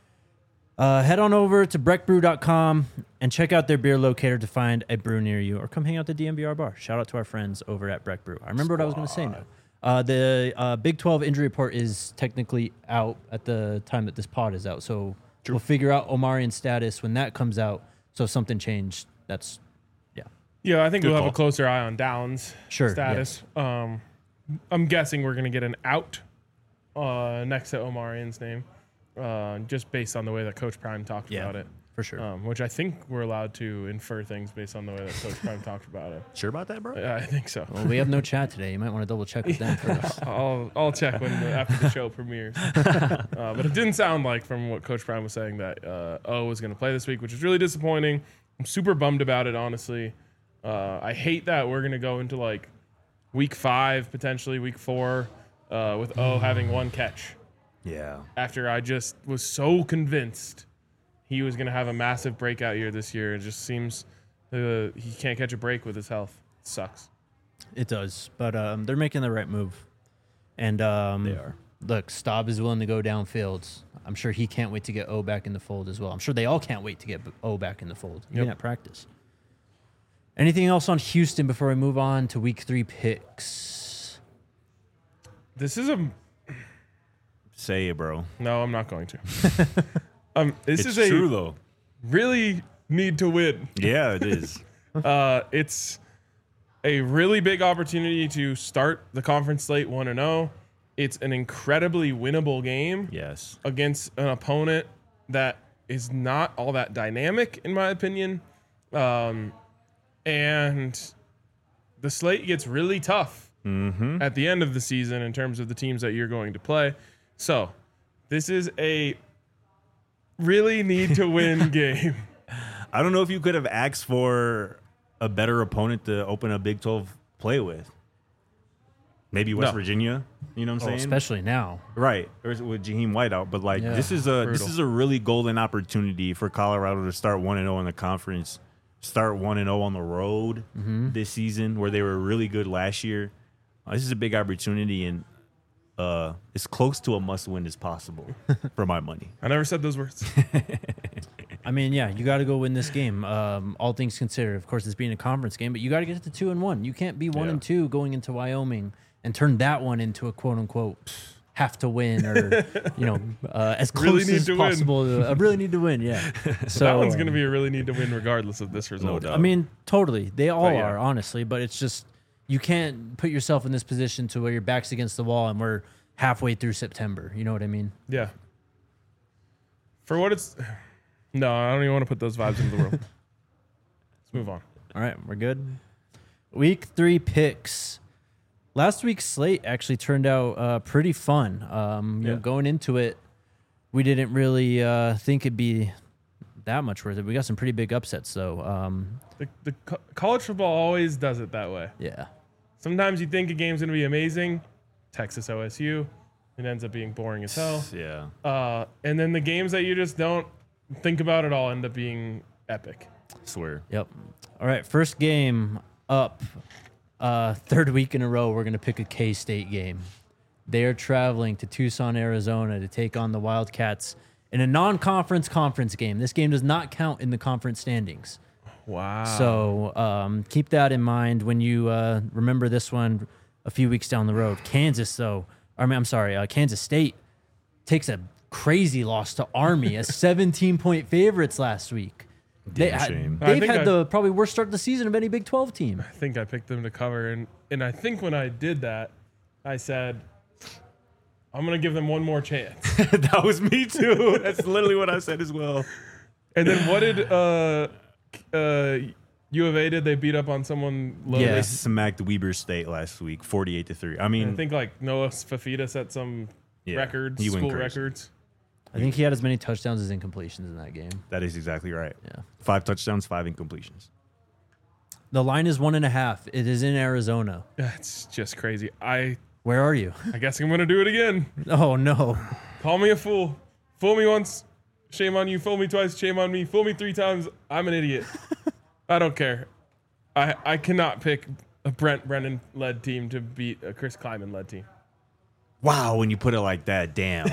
Speaker 1: head on over to breckbrew.com and check out their beer locator to find a brew near you, or come hang out at the DMVR bar. Shout out to our friends over at Breck Brew. I remember what I was going to say now. The Big 12 injury report is technically out at the time that this pod is out, so we'll figure out Omari's status when that comes out. So if something changed, that's...
Speaker 2: Yeah, I think we'll have a closer eye on Downs' status.
Speaker 1: Yes.
Speaker 2: I'm guessing we're going to get an out next to Omari's name, just based on the way that Coach Prime talked about it.
Speaker 1: For sure.
Speaker 2: Which I think we're allowed to infer things based on the way that Coach Prime talked about it.
Speaker 3: Sure about that, bro?
Speaker 2: Yeah, I think so.
Speaker 1: Well, we have no chat today. You might want to double check with them first.
Speaker 2: I'll check after the show premieres. But it didn't sound like, from what Coach Prime was saying, that O was going to play this week, which is really disappointing. I'm super bummed about it, honestly. I hate that we're going to go into like week 5, potentially week 4, with O having 1 catch.
Speaker 3: Yeah.
Speaker 2: After I just was so convinced he was going to have a massive breakout year this year. It just seems he can't catch a break with his health. It sucks.
Speaker 1: It does. But they're making the right move. And they are. Look, Staub is willing to go downfield. I'm sure he can't wait to get O back in the fold as well. I'm sure they all can't wait to get O back in the fold, even at practice. Anything else on Houston before we move on to week 3 picks?
Speaker 2: This is a...
Speaker 3: Say it, bro.
Speaker 2: No, I'm not going to. This
Speaker 3: it's
Speaker 2: is
Speaker 3: true, though.
Speaker 2: Really need to win.
Speaker 3: Yeah, it is.
Speaker 2: It's a really big opportunity to start the conference slate 1-0. It's an incredibly winnable game.
Speaker 3: Yes.
Speaker 2: Against an opponent that is not all that dynamic, in my opinion. And the slate gets really tough at the end of the season in terms of the teams that you're going to play. So this is a really need to win game.
Speaker 3: I don't know if you could have asked for a better opponent to open a Big 12 play with. Maybe West Virginia, you know what I'm saying?
Speaker 1: Especially now.
Speaker 3: Right, or with Jaheim White out. But like this is a really golden opportunity for Colorado to start 1-0 in the conference. Start 1-0 on the road this season, where they were really good last year. This is a big opportunity, and as close to a must-win as possible for my money.
Speaker 2: I never said those words.
Speaker 1: I mean, yeah, you got to go win this game. All things considered, of course, it's being a conference game, but you got to get to 2-1. You can't be 1-2 going into Wyoming and turn that one into a quote-unquote have to win, or as close as possible. I really need to win. Yeah, so
Speaker 2: that one's going to be a really need to win regardless of this result.
Speaker 1: I mean, totally, they all are, honestly. But it's just you can't put yourself in this position to where your back's against the wall and we're halfway through September. You know what I mean?
Speaker 2: Yeah. For what it's, no, I don't even want to put those vibes into the world. Let's move on.
Speaker 1: All right, we're good. Week 3 picks. Last week's slate actually turned out pretty fun. You know, going into it, we didn't really think it'd be that much worth it. We got some pretty big upsets, though.
Speaker 2: College football always does it that way.
Speaker 1: Yeah.
Speaker 2: Sometimes you think a game's going to be amazing. Texas OSU. It ends up being boring as hell.
Speaker 3: Yeah.
Speaker 2: And then the games that you just don't think about at all end up being epic.
Speaker 3: Swear.
Speaker 1: Yep. All right, first game up. Third week in a row, we're going to pick a K-State game. They are traveling to Tucson, Arizona to take on the Wildcats in a non-conference conference game. This game does not count in the conference standings.
Speaker 2: Wow.
Speaker 1: So keep that in mind when you remember this one a few weeks down the road. Kansas State takes a crazy loss to Army as 17-point favorites last week. They've had the probably worst start of the season of any Big 12 team.
Speaker 2: I think I picked them to cover, and I think when I did that, I said, I'm going to give them one more chance.
Speaker 3: That was me too. That's literally what I said as well.
Speaker 2: And then what did U of A did? They beat up on someone low?
Speaker 3: Yeah, they smacked Weber State last week, 48-3. I mean,
Speaker 2: I think like Noah Fafita set some records, school records.
Speaker 1: I think he had as many touchdowns as incompletions in that game.
Speaker 3: That is exactly right.
Speaker 1: Yeah.
Speaker 3: 5 touchdowns, 5 incompletions.
Speaker 1: The line is 1.5. It is in Arizona.
Speaker 2: That's just crazy.
Speaker 1: Where are you?
Speaker 2: I guess I'm going to do it again.
Speaker 1: Oh, no.
Speaker 2: Call me a fool. Fool me once, shame on you. Fool me twice, shame on me. Fool me 3 times, I'm an idiot. I don't care. I cannot pick a Brent Brennan-led team to beat a Chris Kleiman-led team.
Speaker 3: Wow, when you put it like that, damn.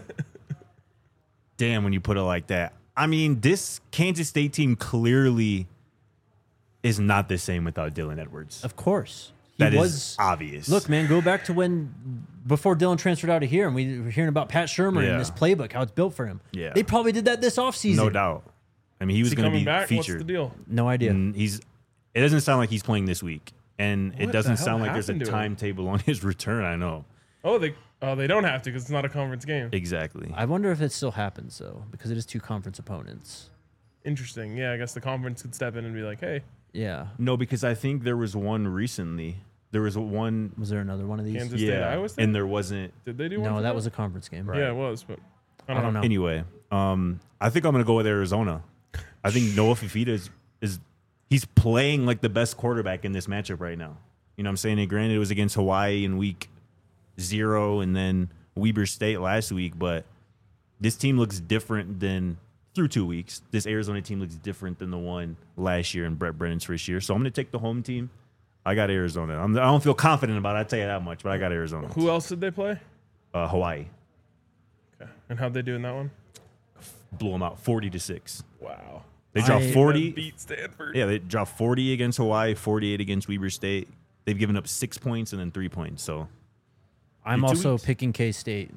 Speaker 3: Damn, when you put it like that. I mean, this Kansas State team clearly is not the same without Dylan Edwards.
Speaker 1: Of course.
Speaker 3: That is obvious.
Speaker 1: Look, man, go back to before Dylan transferred out of here, and we were hearing about Pat Shermer and this playbook, how it's built for him.
Speaker 3: Yeah.
Speaker 1: They probably did that this offseason.
Speaker 3: No doubt. I mean, he was going to be
Speaker 2: back?
Speaker 3: featured.
Speaker 2: What's the deal?
Speaker 1: No idea.
Speaker 3: And it doesn't sound like he's playing this week. And it doesn't sound like there's a timetable on his return, I know.
Speaker 2: Oh, they don't have to because it's not a conference game.
Speaker 3: Exactly.
Speaker 1: I wonder if it still happens, though, because it is 2 conference opponents.
Speaker 2: Interesting. Yeah, I guess the conference could step in and be like, hey.
Speaker 1: Yeah.
Speaker 3: No, because I think there was one recently. There was one.
Speaker 1: Was there another one of these?
Speaker 2: Kansas State, Iowa State?
Speaker 3: And there wasn't.
Speaker 2: Did they do one?
Speaker 1: No, that was a conference game.
Speaker 2: Right. Yeah, it was, but I don't know.
Speaker 3: Anyway, I think I'm going to go with Arizona. I think Noah Fafita he's playing like the best quarterback in this matchup right now. You know what I'm saying? And granted, it was against Hawaii in week 0 and then Weber State last week, but this team looks different than through 2 weeks. This Arizona team looks different than the one last year in Brett Brennan's first year. So I'm going to take the home team. I got Arizona. I don't feel confident about it, I'll tell you that much, but I got Arizona.
Speaker 2: Who else did they play?
Speaker 3: Hawaii.
Speaker 2: Okay. And how'd they do in that one?
Speaker 3: Blew them out 40-6.
Speaker 2: Wow.
Speaker 3: They dropped 40.
Speaker 2: Beat Stanford.
Speaker 3: Yeah, they dropped 40 against Hawaii, 48 against Weber State. They've given up 6 points and then 3 points. So
Speaker 1: I'm also picking K-State.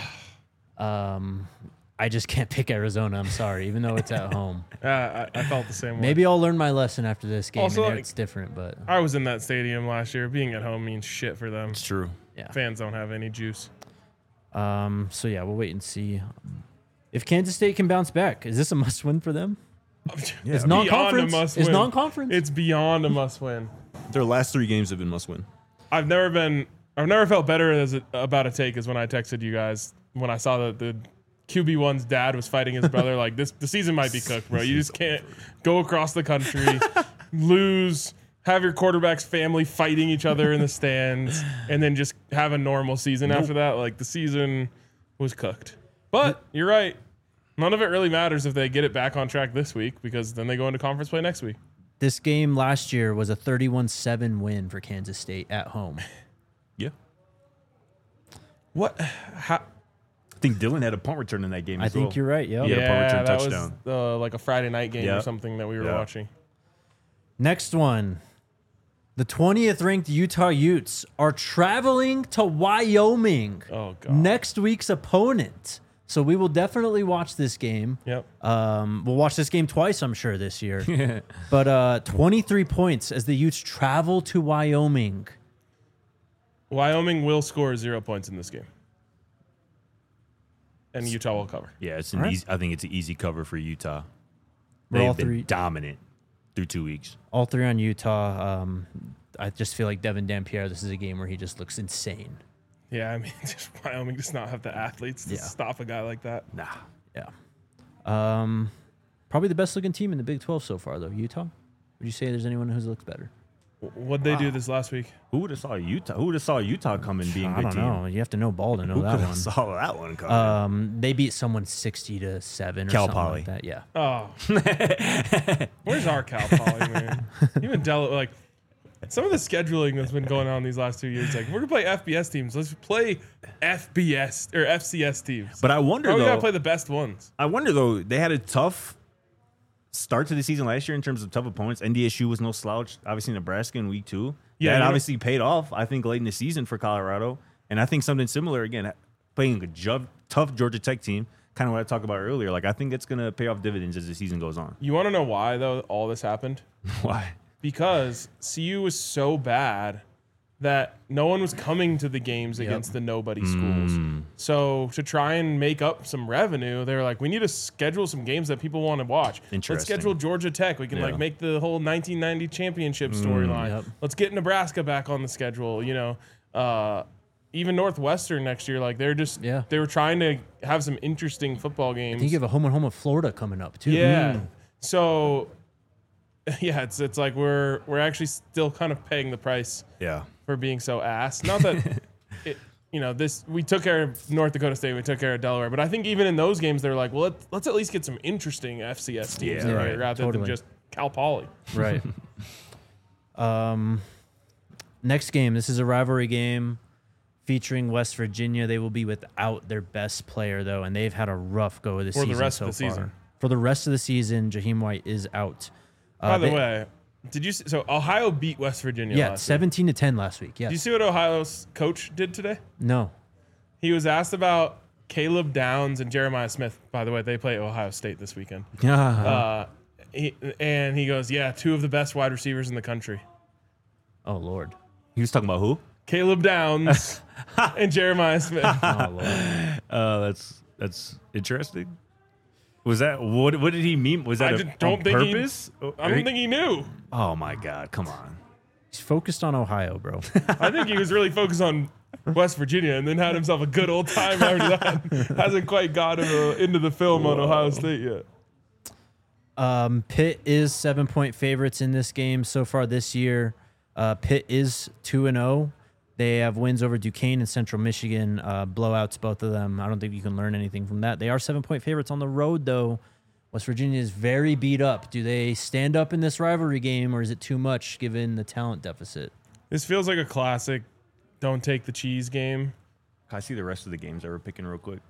Speaker 1: I just can't pick Arizona. I'm sorry, even though it's at home.
Speaker 2: I felt the same way.
Speaker 1: Maybe I'll learn my lesson after this game.
Speaker 2: Also,
Speaker 1: and it's different, but
Speaker 2: I was in that stadium last year. Being at home means shit for them.
Speaker 3: it's true.
Speaker 1: yeah.
Speaker 2: Fans don't have any juice.
Speaker 1: So yeah, we'll wait and see if Kansas State can bounce back. Is this a must-win for them?
Speaker 3: Yeah,
Speaker 1: It's non-conference.
Speaker 2: Beyond a must
Speaker 1: It's
Speaker 2: win.
Speaker 1: non-conference.
Speaker 2: It's beyond a must-win.
Speaker 3: Their last 3 games have been must-win.
Speaker 2: I've never felt better about a take as when I texted you guys when I saw that the QB1's dad was fighting his brother. Like the season might be cooked, bro. You just can't go across the country, lose, have your quarterback's family fighting each other in the stands, and then just have a normal season after that. Like the season was cooked. But you're right. None of it really matters if they get it back on track this week because then they go into conference play next week.
Speaker 1: This game last year was a 31-7 win for Kansas State at home.
Speaker 3: Yeah.
Speaker 2: What?
Speaker 3: I think Dylan had a punt return in that game
Speaker 1: I
Speaker 3: as well.
Speaker 1: think you're right. Yep.
Speaker 3: He had a punt return
Speaker 2: that
Speaker 3: touchdown.
Speaker 2: was like a Friday night game or
Speaker 3: Yeah.
Speaker 2: something that we were
Speaker 3: Yeah.
Speaker 2: watching.
Speaker 1: Next one. The 20th ranked Utah Utes are traveling to Wyoming.
Speaker 2: Oh, God.
Speaker 1: Next week's opponent. So we will definitely watch this game.
Speaker 2: Yep.
Speaker 1: We'll watch this game twice, I'm sure, this year. But 23 points as the Utes travel to Wyoming.
Speaker 2: Wyoming will score 0 points in this game. And Utah will cover.
Speaker 3: Yeah, it's
Speaker 1: All right.
Speaker 3: easy. I think it's an easy cover for Utah.
Speaker 1: We're all
Speaker 3: They've been
Speaker 1: three-
Speaker 3: dominant through 2 weeks.
Speaker 1: All 3 on Utah. I just feel like Devin Dampierre, this is a game where he just looks insane.
Speaker 2: Yeah, I mean, just Wyoming does not have the athletes to stop a guy like that.
Speaker 3: Nah.
Speaker 1: Yeah. Probably the best looking team in the Big 12 so far, though. Utah? Would you say there's anyone who looks better?
Speaker 2: What'd they do this last week?
Speaker 3: Who would have saw Utah? Who would have saw Utah coming being a
Speaker 1: I
Speaker 3: good
Speaker 1: don't
Speaker 3: team?
Speaker 1: know. You have to know ball to know
Speaker 3: Who
Speaker 1: that
Speaker 3: could have
Speaker 1: one.
Speaker 3: saw that one coming?
Speaker 1: They beat someone 60-7 or
Speaker 3: Cal
Speaker 1: something
Speaker 3: Poly.
Speaker 1: like that. Yeah.
Speaker 2: Oh, where's our Cal Poly, man? Even like some of the scheduling that's been going on these last 2 years. Like, we're gonna play FBS teams. Let's play FBS or FCS teams.
Speaker 3: But I wonder
Speaker 2: we
Speaker 3: though.
Speaker 2: gotta play the best ones.
Speaker 3: I wonder though. They had a tough start to the season last year in terms of tough opponents. NDSU was no slouch. Obviously, Nebraska in week 2.
Speaker 2: Yeah,
Speaker 3: that
Speaker 2: you
Speaker 3: obviously paid off. I think late in the season for Colorado, and I think something similar again, playing a tough Georgia Tech team. Kind of what I talked about earlier. Like I think it's gonna pay off dividends as the season goes on.
Speaker 2: You want to know why though all this happened?
Speaker 3: Why?
Speaker 2: Because CU was so bad that no one was coming to the games against the nobody schools. So to try and make up some revenue, they were like, we need to schedule some games that people want to watch. Let's
Speaker 3: Interesting.
Speaker 2: schedule Georgia Tech. We can like make the whole 1990 championship storyline.
Speaker 1: Yep.
Speaker 2: Let's get Nebraska back on the schedule. You know, even Northwestern next year, like they were trying to have some interesting football games.
Speaker 1: I think you have a home and home of Florida coming up, too.
Speaker 2: Yeah. So yeah, it's like we're actually still kind of paying the price
Speaker 3: Yeah.
Speaker 2: for being so ass. Not that we took care of North Dakota State, we took care of Delaware, but I think even in those games they're like, well, let's at least get some interesting FCS teams
Speaker 3: Yeah,
Speaker 2: right, rather than just Cal Poly.
Speaker 1: Right. Next game. This is a rivalry game featuring West Virginia. They will be without their best player, though, and they've had a rough go of the season
Speaker 2: For the rest
Speaker 1: so
Speaker 2: of the
Speaker 1: far.
Speaker 2: season.
Speaker 1: For the rest of the season, Jaheim White is out.
Speaker 2: By the way, did you see, so Ohio beat West Virginia
Speaker 1: Yeah,
Speaker 2: last week.
Speaker 1: 17-10 last week. Yes.
Speaker 2: Did you see what Ohio's coach did today?
Speaker 1: No.
Speaker 2: He was asked about Caleb Downs and Jeremiah Smith. By the way, they play Ohio State this weekend. And he goes, yeah, 2 of the best wide receivers in the country.
Speaker 1: Oh, Lord.
Speaker 3: He was talking about who?
Speaker 2: Caleb Downs and Jeremiah Smith.
Speaker 1: Oh, Lord.
Speaker 3: That's interesting. Was that what did he mean? Was that
Speaker 2: I
Speaker 3: a,
Speaker 2: just don't
Speaker 3: on
Speaker 2: think
Speaker 3: purpose?
Speaker 2: I don't think he knew.
Speaker 3: Oh my God! Come on.
Speaker 1: He's focused on Ohio, bro.
Speaker 2: I think he was really focused on West Virginia and then had himself a good old time after that. Hasn't quite got him into the film on Ohio State yet.
Speaker 1: Pitt is 7-point favorites in this game so far this year. Pitt is 2-0. They have wins over Duquesne and Central Michigan, blowouts, both of them. I don't think you can learn anything from that. They are 7-point favorites on the road, though. West Virginia is very beat up. Do they stand up in this rivalry game, or is it too much given the talent deficit?
Speaker 2: This feels like a classic don't take the cheese game.
Speaker 3: Can I see the rest of the games that we're picking real quick?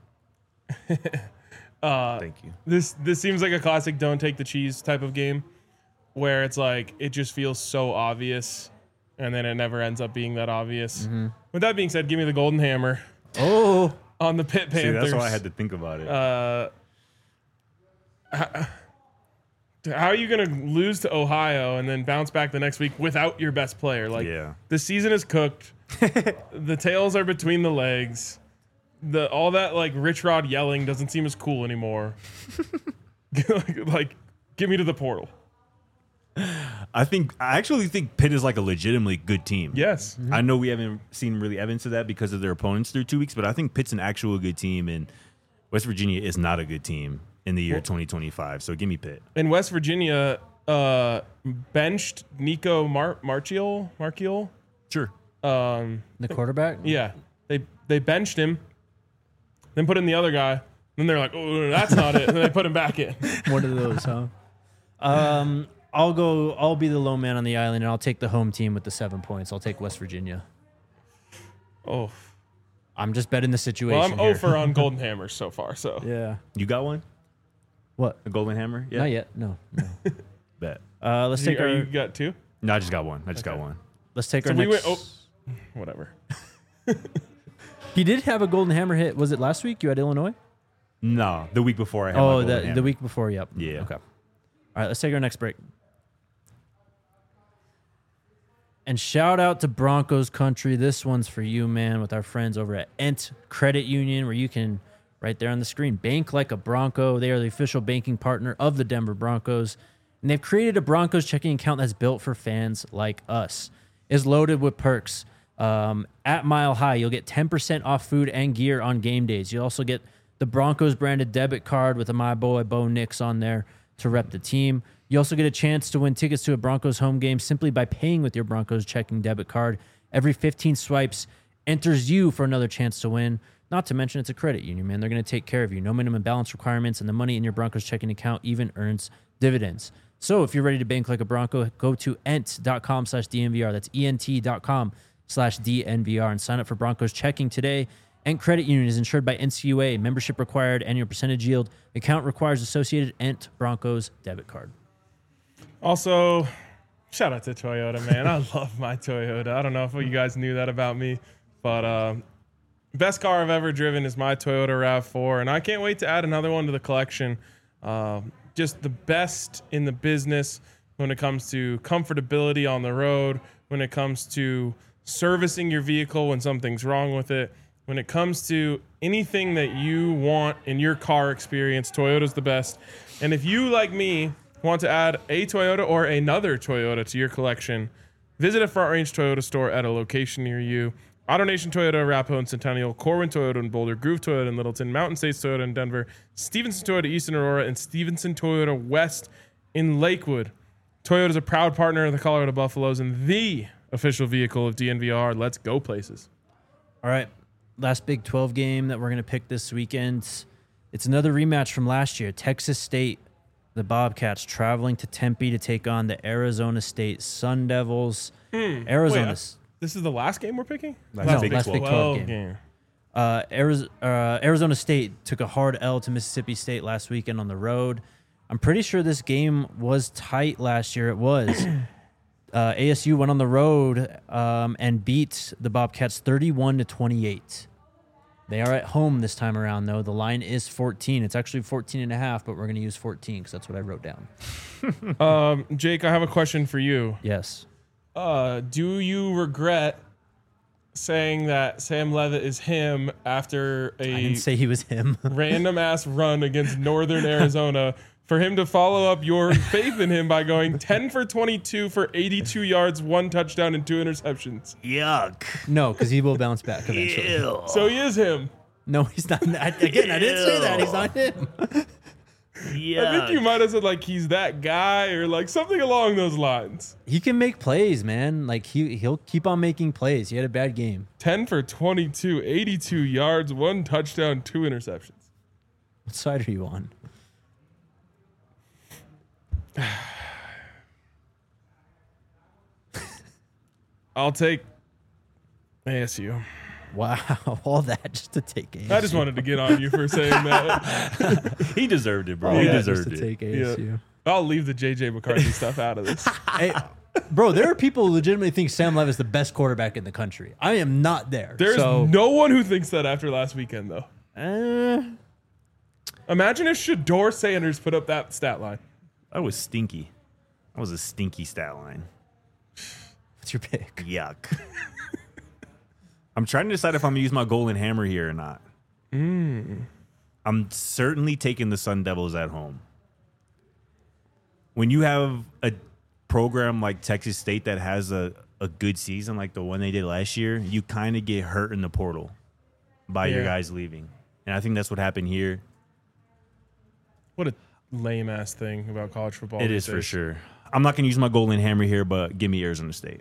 Speaker 3: Thank you.
Speaker 2: This seems like a classic don't take the cheese type of game where it's like it just feels so obvious and then it never ends up being that obvious.
Speaker 1: Mm-hmm.
Speaker 2: With that being said, give me the Golden Hammer
Speaker 1: Oh,
Speaker 2: on the Pitt Panthers.
Speaker 3: See, that's why I had to think about it.
Speaker 2: How are you going to lose to Ohio and then bounce back the next week without your best player? Like,
Speaker 3: Yeah.
Speaker 2: the season is cooked. The tails are between the legs. All that like Rich Rod yelling doesn't seem as cool anymore. like, get me to the portal.
Speaker 3: I actually think Pitt is like a legitimately good team.
Speaker 2: Yes.
Speaker 3: I know we haven't seen really evidence of that because of their opponents through 2 weeks, but I think Pitt's an actual good team, and West Virginia is not a good team in the year 2025. So give me Pitt.
Speaker 2: And West Virginia benched Nico Marchiol.
Speaker 3: Sure.
Speaker 1: the quarterback?
Speaker 2: Yeah, they benched him, then put in the other guy. Then they're like, oh, that's not it. And then they put him back in.
Speaker 1: One of those, huh? I'll be the low man on the island, and I'll take the home team with the 7 points. I'll take West Virginia.
Speaker 2: Oh,
Speaker 1: I'm just betting the situation.
Speaker 2: well, I'm
Speaker 1: here.
Speaker 2: 0 for on Golden Hammers so far. So
Speaker 1: Yeah.
Speaker 3: You got one?
Speaker 1: What?
Speaker 3: A golden hammer? Yeah.
Speaker 1: Not yet. No.
Speaker 3: Bet.
Speaker 1: Let's take
Speaker 2: you
Speaker 1: our.
Speaker 2: got 2.
Speaker 3: No, I just got one. Got one.
Speaker 1: Let's take
Speaker 2: So
Speaker 1: our
Speaker 2: we
Speaker 1: next.
Speaker 2: went. Oh, whatever.
Speaker 1: He did have a golden hammer hit. Was it last week? You had Illinois?
Speaker 3: No, the week before I had my
Speaker 1: Oh,
Speaker 3: golden hammer.
Speaker 1: the week before. Yep.
Speaker 3: Yeah.
Speaker 1: Okay. All right. Let's take our next break. And shout out to Broncos Country. This one's for you, man, with our friends over at Ent Credit Union, where you can, right there on the screen, bank like a Bronco. They are the official banking partner of the Denver Broncos. And they've created a Broncos checking account that's built for fans like us. is loaded with perks. At Mile High, you'll get 10% off food and gear on game days. You'll also get the Broncos branded debit card with a My Boy Bo Nix on there to rep the team. You also get a chance to win tickets to a Broncos home game simply by paying with your Broncos checking debit card. Every 15 swipes enters you for another chance to win. Not to mention it's a credit union, man. They're going to take care of you. No minimum balance requirements, and the money in your Broncos checking account even earns dividends. So if you're ready to bank like a Bronco, go to ent.com/DNVR. That's ent.com/DNVR and sign up for Broncos checking today. Ent Credit Union is insured by NCUA. Membership required. Annual percentage yield. Account requires associated Ent Broncos debit card.
Speaker 2: Also, shout out to Toyota, man. I love my Toyota. I don't know if you guys knew that about me, but best car I've ever driven is my Toyota RAV4, and I can't wait to add another one to the collection. Just the best in the business when it comes to comfortability on the road, when it comes to servicing your vehicle when something's wrong with it, when it comes to anything that you want in your car experience, Toyota's the best. And if you, like me, want to add a Toyota or another Toyota to your collection, visit a Front Range Toyota store at a location near you. AutoNation Toyota, Arapahoe and Centennial, Corwin Toyota in Boulder, Groove Toyota in Littleton, Mountain States Toyota in Denver, Stevenson Toyota East in Aurora, and Stevenson Toyota West in Lakewood. Toyota is a proud partner of the Colorado Buffaloes and the official vehicle of DNVR. Let's go places.
Speaker 1: All right. Last Big 12 game that we're going to pick this weekend. It's another rematch from last year. Texas State, the Bobcats, traveling to Tempe to take on the Arizona State Sun Devils. Arizona.
Speaker 2: Wait, this is the last game we're picking?
Speaker 1: Last Big 12 game. Arizona State took a hard L to Mississippi State last weekend on the road. I'm pretty sure this game was tight last year. It was. ASU went on the road and beat the Bobcats 31-28. They are at home this time around, though. The line is 14. It's actually 14.5, but we're going to use 14 because that's what I wrote down.
Speaker 2: Jake, I have a question for you.
Speaker 1: Yes.
Speaker 2: Do you regret saying that Sam Leavitt is him after
Speaker 1: I didn't say he was him.
Speaker 2: random ass run against Northern Arizona, for him to follow up your faith in him by going 10 for 22 for 82 yards, 1 touchdown, and 2 interceptions?
Speaker 3: Yuck.
Speaker 1: No, because he will bounce back eventually.
Speaker 3: Ew.
Speaker 2: So he is him.
Speaker 1: No, he's not. Again, I didn't say that. He's not him.
Speaker 3: Yuck.
Speaker 2: I think you might have said like he's that guy or like something along those lines.
Speaker 1: He can make plays, man. Like he'll keep on making plays. He had a bad game.
Speaker 2: 10 for 22, 82 yards, 1 touchdown, 2 interceptions.
Speaker 1: What side are you on?
Speaker 2: I'll take ASU.
Speaker 1: Wow, all that just to take ASU.
Speaker 2: I just wanted to get on you for saying that.
Speaker 3: He deserved it, bro.
Speaker 1: All
Speaker 3: He
Speaker 1: that
Speaker 3: deserved
Speaker 1: just to
Speaker 3: it.
Speaker 1: take ASU.
Speaker 2: I'll leave the JJ McCarthy stuff out of this.
Speaker 1: Hey, bro, there are people who legitimately think Sam Leavitt is the best quarterback in the country. I am not there.
Speaker 2: There's no one who thinks that after last weekend, though. Imagine if Shador Sanders put up that stat line.
Speaker 3: That was stinky. That was a stinky stat line.
Speaker 1: What's your pick?
Speaker 3: Yuck. I'm trying to decide if I'm going to use my golden hammer here or not. I'm certainly taking the Sun Devils at home. When you have a program like Texas State that has a good season like the one they did last year, you kind of get hurt in the portal by your guys leaving. And I think that's what happened here.
Speaker 2: What a lame ass thing about college football.
Speaker 3: It is for sure. I'm not going to use my golden hammer here, but give me Arizona State.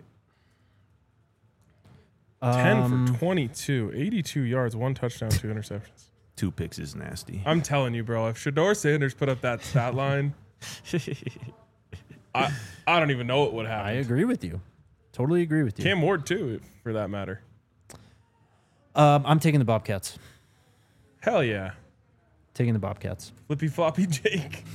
Speaker 2: 10 for 22, 82 yards, 1 touchdown, 2 interceptions.
Speaker 3: 2 picks is nasty.
Speaker 2: I'm telling you, bro, if Shador Sanders put up that stat line, I don't even know what would happen.
Speaker 1: I agree with you. Totally agree with you.
Speaker 2: Cam Ward, too, for that matter.
Speaker 1: I'm taking the Bobcats.
Speaker 2: Hell yeah.
Speaker 1: Taking the Bobcats.
Speaker 2: Flippy floppy Jake.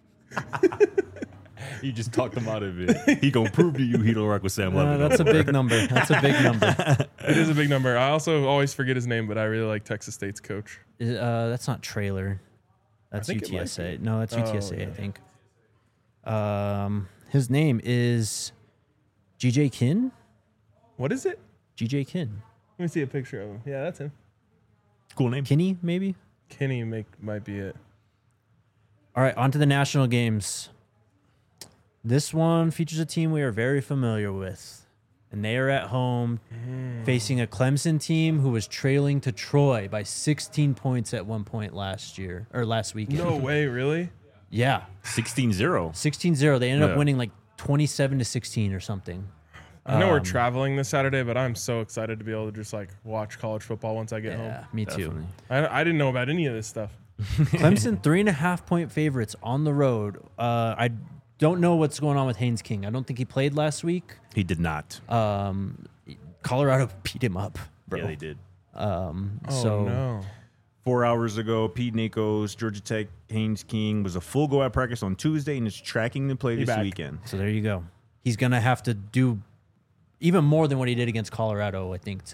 Speaker 3: You just talked him out of it. He gonna prove to you he don't rock with Sam Leavitt.
Speaker 1: That's a big number. That's a big number.
Speaker 2: It is a big number. I also always forget his name, but I really like Texas State's coach.
Speaker 1: That's not Trailer. That's
Speaker 2: I think it might
Speaker 1: UTSA.
Speaker 2: be.
Speaker 1: No, that's UTSA,
Speaker 2: yeah.
Speaker 1: I think. His name is GJ Kinn.
Speaker 2: What is it?
Speaker 1: GJ Kinn.
Speaker 2: Let me see a picture of him. Yeah, that's him.
Speaker 3: Cool name.
Speaker 1: Kinney, maybe?
Speaker 2: Kenny might be it.
Speaker 1: All right, on to the national games. This one features a team we are very familiar with, and they are at home facing a Clemson team who was trailing to Troy by 16 points at one point last weekend.
Speaker 2: No way, really?
Speaker 1: Yeah.
Speaker 3: 16-0.
Speaker 1: 16-0. They ended
Speaker 3: Yeah.
Speaker 1: up winning like 27-16 or something.
Speaker 2: I know we're traveling this Saturday, but I'm so excited to be able to just like watch college football once I get
Speaker 1: Yeah,
Speaker 2: home.
Speaker 1: me too.
Speaker 2: I didn't know about any of this stuff.
Speaker 1: Clemson 3.5-point favorites on the road. I don't know what's going on with Haynes King. I don't think he played last week.
Speaker 3: He did not.
Speaker 1: Colorado beat him up, bro.
Speaker 3: Yeah, they did.
Speaker 2: Oh
Speaker 1: So
Speaker 2: no.
Speaker 3: 4 hours ago, Pete Nikos, Georgia Tech, Haynes King was a full go at practice on Tuesday and is tracking to play this
Speaker 2: back.
Speaker 3: weekend.
Speaker 1: So there you go. He's gonna have to do even more than what he did against Colorado, I think.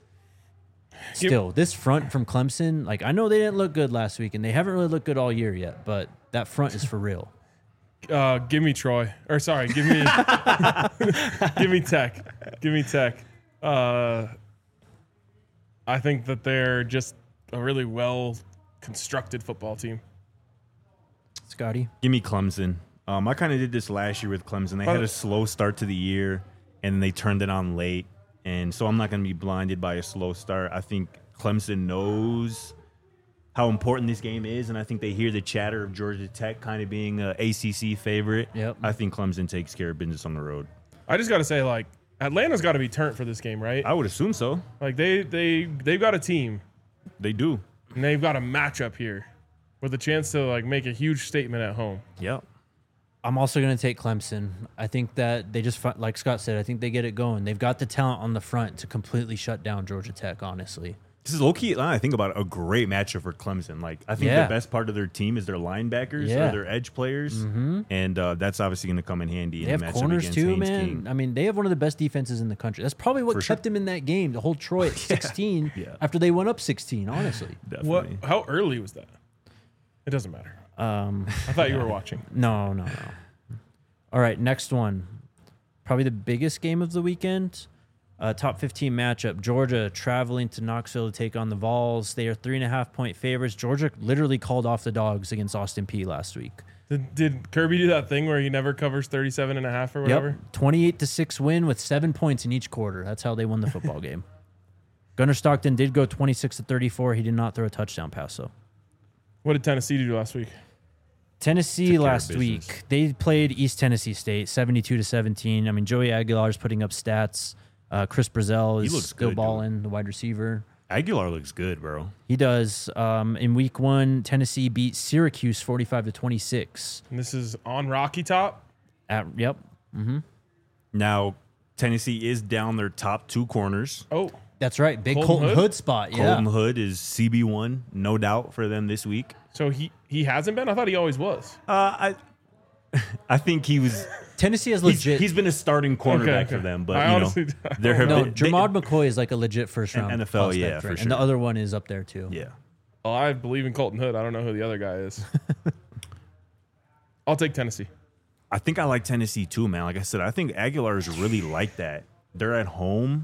Speaker 1: This front from Clemson, like I know they didn't look good last week, and they haven't really looked good all year yet. But that front is for real.
Speaker 2: Give me Troy. Or sorry, give me give me Tech. Give me Tech. I think that they're just a really well constructed football team.
Speaker 1: Scotty,
Speaker 3: Give me Clemson. I kind of did this last year with Clemson. They had a slow start to the year, and they turned it on late. And so I'm not going to be blinded by a slow start. I think Clemson knows how important this game is, and I think they hear the chatter of Georgia Tech kind of being an ACC favorite.
Speaker 1: Yep.
Speaker 3: I think Clemson takes care of business on the road.
Speaker 2: I just got to say, like, Atlanta's got to be turned for this game, right?
Speaker 3: I would assume so.
Speaker 2: Like they've got a team
Speaker 3: They do.
Speaker 2: and they've got a matchup here with a chance to like make a huge statement at home.
Speaker 3: Yep.
Speaker 1: I'm also going to take Clemson. I think that they just, like Scott said, I think they get it going. They've got the talent on the front to completely shut down Georgia Tech, honestly.
Speaker 3: This is low-key, now I think about it, a great matchup for Clemson. Like, I think
Speaker 1: Yeah.
Speaker 3: the best part of their team is their linebackers
Speaker 1: Yeah.
Speaker 3: or their edge players, and that's obviously going to come in handy
Speaker 1: They
Speaker 3: in
Speaker 1: have
Speaker 3: a matchup
Speaker 1: corners
Speaker 3: against
Speaker 1: too,
Speaker 3: Haynes
Speaker 1: man.
Speaker 3: King.
Speaker 1: I mean, they have one of the best defenses in the country. That's probably what
Speaker 3: For
Speaker 1: kept them in that game, to hold Troy at 16
Speaker 3: Yeah.
Speaker 1: after they went up 16, honestly.
Speaker 3: Definitely.
Speaker 2: How early was that? It doesn't matter. I thought you were watching.
Speaker 1: No. All right, next one. Probably the biggest game of the weekend. Top 15 matchup. Georgia traveling to Knoxville to take on the Vols. They are 3.5-point favorites. Georgia literally called off the dogs against Austin Peay last week.
Speaker 2: Did Kirby do that thing where he never covers 37.5 or whatever?
Speaker 1: Yep. 28-6 win with 7 points in each quarter. That's how they won the football game. Gunnar Stockton did go 26-34. He did not throw a touchdown pass, though.
Speaker 2: What did Tennessee do last week?
Speaker 1: Tennessee
Speaker 3: Took care of
Speaker 1: last
Speaker 3: business.
Speaker 1: week, they played East Tennessee State 72-17. I mean, Joey Aguilar's putting up stats. Chris Brazzell
Speaker 3: He
Speaker 1: is
Speaker 3: looks
Speaker 1: still
Speaker 3: good,
Speaker 1: balling, the wide receiver.
Speaker 3: Aguilar looks good, bro.
Speaker 1: He does. In week 1, Tennessee beat Syracuse 45-26.
Speaker 2: And this is on Rocky Top.
Speaker 1: Yep.
Speaker 3: Now, Tennessee is down their top two corners.
Speaker 2: Oh,
Speaker 1: That's right. Big
Speaker 2: Colton
Speaker 1: Colton
Speaker 2: Hood?
Speaker 1: Hood spot. Yeah.
Speaker 3: Colton Hood is CB1, no doubt, for them this week.
Speaker 2: so he hasn't been? I thought he always was.
Speaker 3: I think he was.
Speaker 1: Tennessee has legit.
Speaker 3: He's been a starting cornerback
Speaker 2: Okay.
Speaker 3: for them, but
Speaker 2: I
Speaker 3: you
Speaker 2: honestly-
Speaker 3: know, there have
Speaker 1: no,
Speaker 3: been
Speaker 1: Jermod McCoy is like a legit first round
Speaker 3: NFL,
Speaker 1: prospect,
Speaker 3: yeah, for
Speaker 1: right?
Speaker 3: sure.
Speaker 1: And the other one is up there too.
Speaker 3: yeah.
Speaker 2: Well, I believe in Colton Hood. I don't know who the other guy is. I'll take Tennessee.
Speaker 3: I think I like Tennessee too, man. Like I said, I think Aguilar is really like that. They're at home.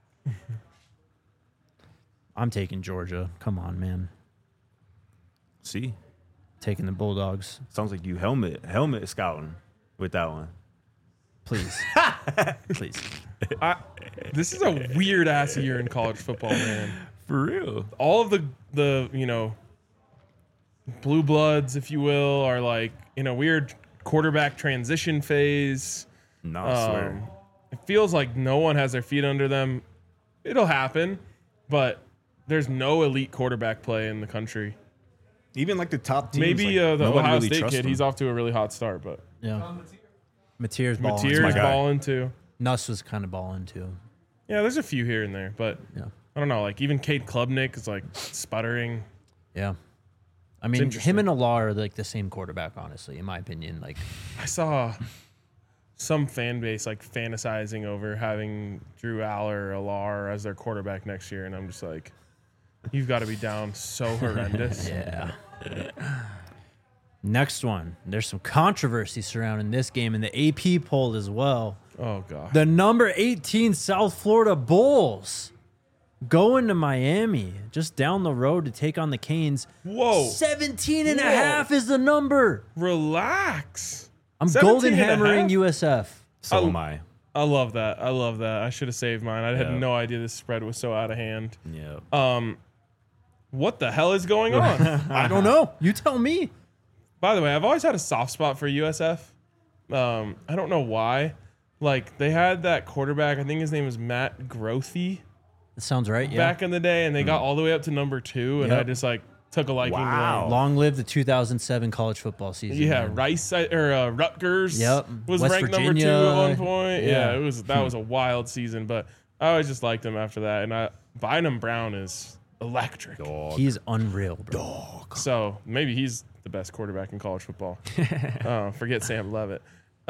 Speaker 1: I'm taking Georgia. Come on, man.
Speaker 3: See,
Speaker 1: Taking the Bulldogs.
Speaker 3: sounds like you helmet scouting with that one.
Speaker 1: Please. Please.
Speaker 2: This is a weird ass year in college football, man.
Speaker 3: For real.
Speaker 2: All of the blue bloods, if you will, are like in a weird quarterback transition phase.
Speaker 3: No, I swear.
Speaker 2: It feels like no one has their feet under them. It'll happen, but there's no elite quarterback play in the country.
Speaker 3: Even like the top teams.
Speaker 2: Maybe
Speaker 3: like,
Speaker 2: the
Speaker 3: nobody
Speaker 2: Ohio
Speaker 3: really
Speaker 2: State
Speaker 3: trusts
Speaker 2: kid,
Speaker 3: them.
Speaker 2: he's off to a really hot start, but
Speaker 1: Yeah. Mateer's balling.
Speaker 2: Mateer's
Speaker 3: my guy.
Speaker 2: balling too.
Speaker 1: Nuss was kind of balling too.
Speaker 2: Yeah, there's a few here and there, but
Speaker 1: Yeah.
Speaker 2: I don't know. Like even Cade Klubnik is like sputtering.
Speaker 1: Yeah. I mean,
Speaker 2: interesting.
Speaker 1: him and Alar are like the same quarterback, honestly, in my opinion. Like,
Speaker 2: I saw some fan base like fantasizing over having Drew Aller or Alar as their quarterback next year, and I'm just like, you've got to be down so horrendous.
Speaker 1: yeah. Next one. There's some controversy surrounding this game in the AP poll as well.
Speaker 2: Oh god.
Speaker 1: The number 18 South Florida Bulls going to Miami, just down the road to take on the Canes.
Speaker 2: Whoa.
Speaker 1: 17 and a half is the number.
Speaker 2: Relax.
Speaker 1: I'm
Speaker 2: 17
Speaker 1: golden
Speaker 2: and a
Speaker 1: hammering
Speaker 2: half?
Speaker 1: USF.
Speaker 3: So am I.
Speaker 2: I love that. I should have saved mine. I had no idea this spread was so out of hand.
Speaker 3: Yeah.
Speaker 2: What the hell is going on?
Speaker 1: I don't know. You tell me.
Speaker 2: By the way, I've always had a soft spot for USF. I don't know why. Like, they had that quarterback, I think his name was Matt Grothy.
Speaker 1: That sounds right. Yeah.
Speaker 2: Back in the day, and they got all the way up to number 2, and I just like took a liking to them.
Speaker 1: Long live the 2007 college football season.
Speaker 2: Yeah,
Speaker 1: man.
Speaker 2: Rutgers was
Speaker 1: West
Speaker 2: ranked number
Speaker 1: Virginia.
Speaker 2: 2 at one point.
Speaker 1: Yeah.
Speaker 2: That was a wild season, but I always just liked him after that. And Bynum Brown is electric.
Speaker 1: He's unreal, bro.
Speaker 2: So maybe he's the best quarterback in college football. Forget Sam Leavitt.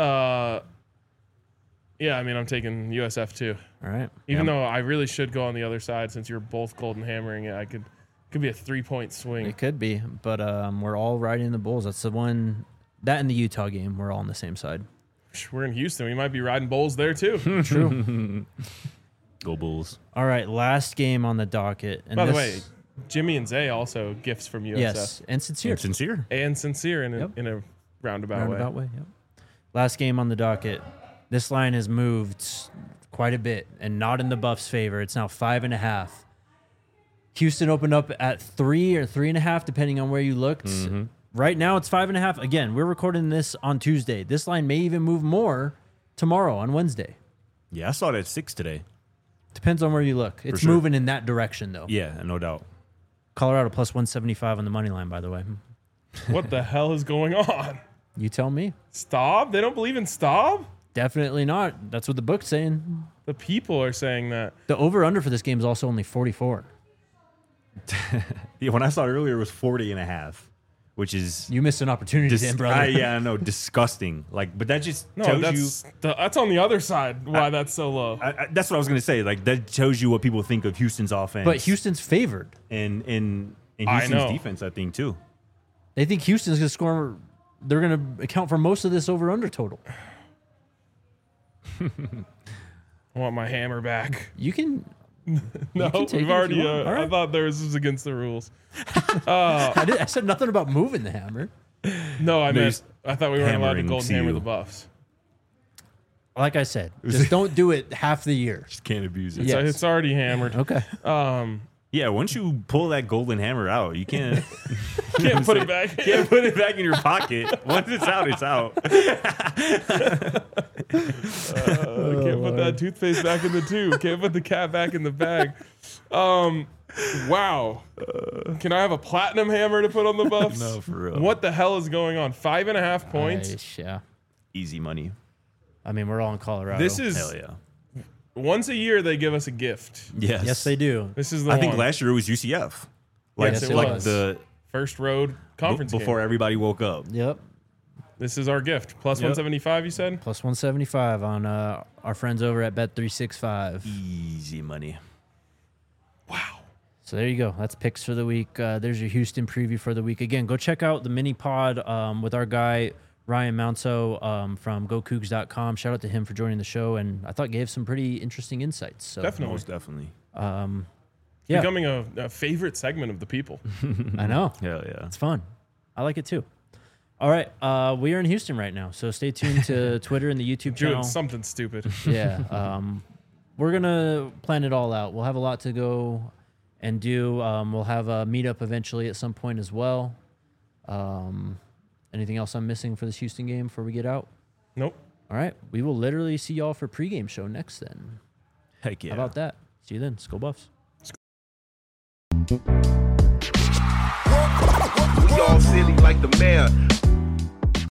Speaker 2: Yeah, I mean, I'm taking USF too.
Speaker 1: All right.
Speaker 2: Even though I really should go on the other side, since you're both golden hammering it, could be a 3-point swing.
Speaker 1: It could be, but we're all riding the Bulls. That's the one. That and the Utah game, we're all on the same side.
Speaker 2: We're in Houston. We might be riding Bulls there too.
Speaker 1: True.
Speaker 3: Go Bulls.
Speaker 1: All right, last game on the docket. And
Speaker 2: By the way, Jimmy and Zay also gifts from USF.
Speaker 1: yes, and sincere.
Speaker 2: And sincere in a roundabout way.
Speaker 1: Yep. Last game on the docket. This line has moved quite a bit and not in the Buffs' favor. It's now 5.5. Houston opened up at 3 or 3.5, depending on where you looked.
Speaker 3: Mm-hmm.
Speaker 1: Right now, it's 5.5. Again, we're recording this on Tuesday. This line may even move more tomorrow on Wednesday.
Speaker 3: Yeah, I saw it at 6 today.
Speaker 1: Depends on where you look. It's
Speaker 3: sure.
Speaker 1: moving in that direction, though.
Speaker 3: Yeah, no doubt.
Speaker 1: Colorado plus 175 on the money line, by the way.
Speaker 2: What the hell is going on?
Speaker 1: You tell me.
Speaker 2: Staub? They don't believe in Staub?
Speaker 1: Definitely not. That's what the book's saying.
Speaker 2: The people are saying that.
Speaker 1: The over-under for this game is also only 44.
Speaker 3: Yeah, when I saw it earlier, it was 40.5, which is
Speaker 1: You missed an opportunity, then, brother.
Speaker 3: yeah, I know, disgusting. Like, but that just
Speaker 2: No,
Speaker 3: tells
Speaker 2: that's on the other side why that's so low.
Speaker 3: that's what I was gonna say. Like, that tells you what people think of Houston's offense.
Speaker 1: But Houston's favored.
Speaker 3: and
Speaker 2: I
Speaker 3: Houston's
Speaker 2: know.
Speaker 3: defense, I think too.
Speaker 1: They think Houston's going to score. They're going to account for most of this over-under total.
Speaker 2: I want my hammer back.
Speaker 1: You can.
Speaker 2: No,
Speaker 1: can take
Speaker 2: we've
Speaker 1: it if
Speaker 2: already.
Speaker 1: you want. All
Speaker 2: I
Speaker 1: right.
Speaker 2: thought this was against the rules.
Speaker 1: I said nothing about moving the hammer.
Speaker 2: No, I
Speaker 3: he's
Speaker 2: thought we weren't allowed to
Speaker 3: hammering
Speaker 2: golden hammer
Speaker 3: CU.
Speaker 2: the Buffs.
Speaker 1: Like I said, just don't do it half the year.
Speaker 3: Just can't abuse it.
Speaker 1: Yeah.
Speaker 2: So
Speaker 1: Yes.
Speaker 2: it's already hammered.
Speaker 1: Okay.
Speaker 3: Yeah, once you pull that golden hammer out, you can't
Speaker 2: Can't put it back.
Speaker 3: can't put it back in your pocket. Once it's out, it's out.
Speaker 2: Can't put that toothpaste back in the tube. Can't put the cat back in the bag. Wow. Can I have a platinum hammer to put on the Buffs?
Speaker 3: No, for real.
Speaker 2: What the hell is going on? 5.5 points.
Speaker 1: Yeah.
Speaker 3: Easy money.
Speaker 1: I mean, we're all in Colorado.
Speaker 2: This is
Speaker 3: Hell yeah.
Speaker 2: once a year they give us a gift.
Speaker 3: Yes.
Speaker 1: Yes, they do.
Speaker 2: This is the
Speaker 3: I
Speaker 2: one.
Speaker 3: think last year it was UCF. Like,
Speaker 2: Yes, it
Speaker 3: like
Speaker 2: was.
Speaker 3: the
Speaker 2: First road conference
Speaker 3: before
Speaker 2: game.
Speaker 3: everybody woke up.
Speaker 1: Yep.
Speaker 2: This is our gift. Plus
Speaker 3: Yep.
Speaker 2: 175, you said?
Speaker 1: Plus 175 on our friends over at Bet365.
Speaker 3: Easy money.
Speaker 2: Wow.
Speaker 1: So there you go. That's picks for the week. There's your Houston preview for the week. Again, go check out the mini pod with our guy Ryan Mounso from GoCougs.com. Shout out to him for joining the show, and I thought gave some pretty interesting insights. So
Speaker 2: Definitely.
Speaker 3: Most definitely.
Speaker 1: yeah,
Speaker 2: Becoming a favorite segment of the people.
Speaker 1: I know.
Speaker 3: Hell yeah.
Speaker 1: It's fun. I like it too. All right, we are in Houston right now, so stay tuned to Twitter and the YouTube channel.
Speaker 2: Doing something stupid.
Speaker 1: Yeah, we're gonna plan it all out. We'll have a lot to go and do. We'll have a meetup eventually at some point as well. Anything else I'm missing for this Houston game before we get out?
Speaker 2: Nope.
Speaker 1: All right, we will literally see y'all for pregame show next then.
Speaker 3: Heck yeah.
Speaker 1: How about that? See you then. Skol Buffs.
Speaker 7: We all silly like the mayor.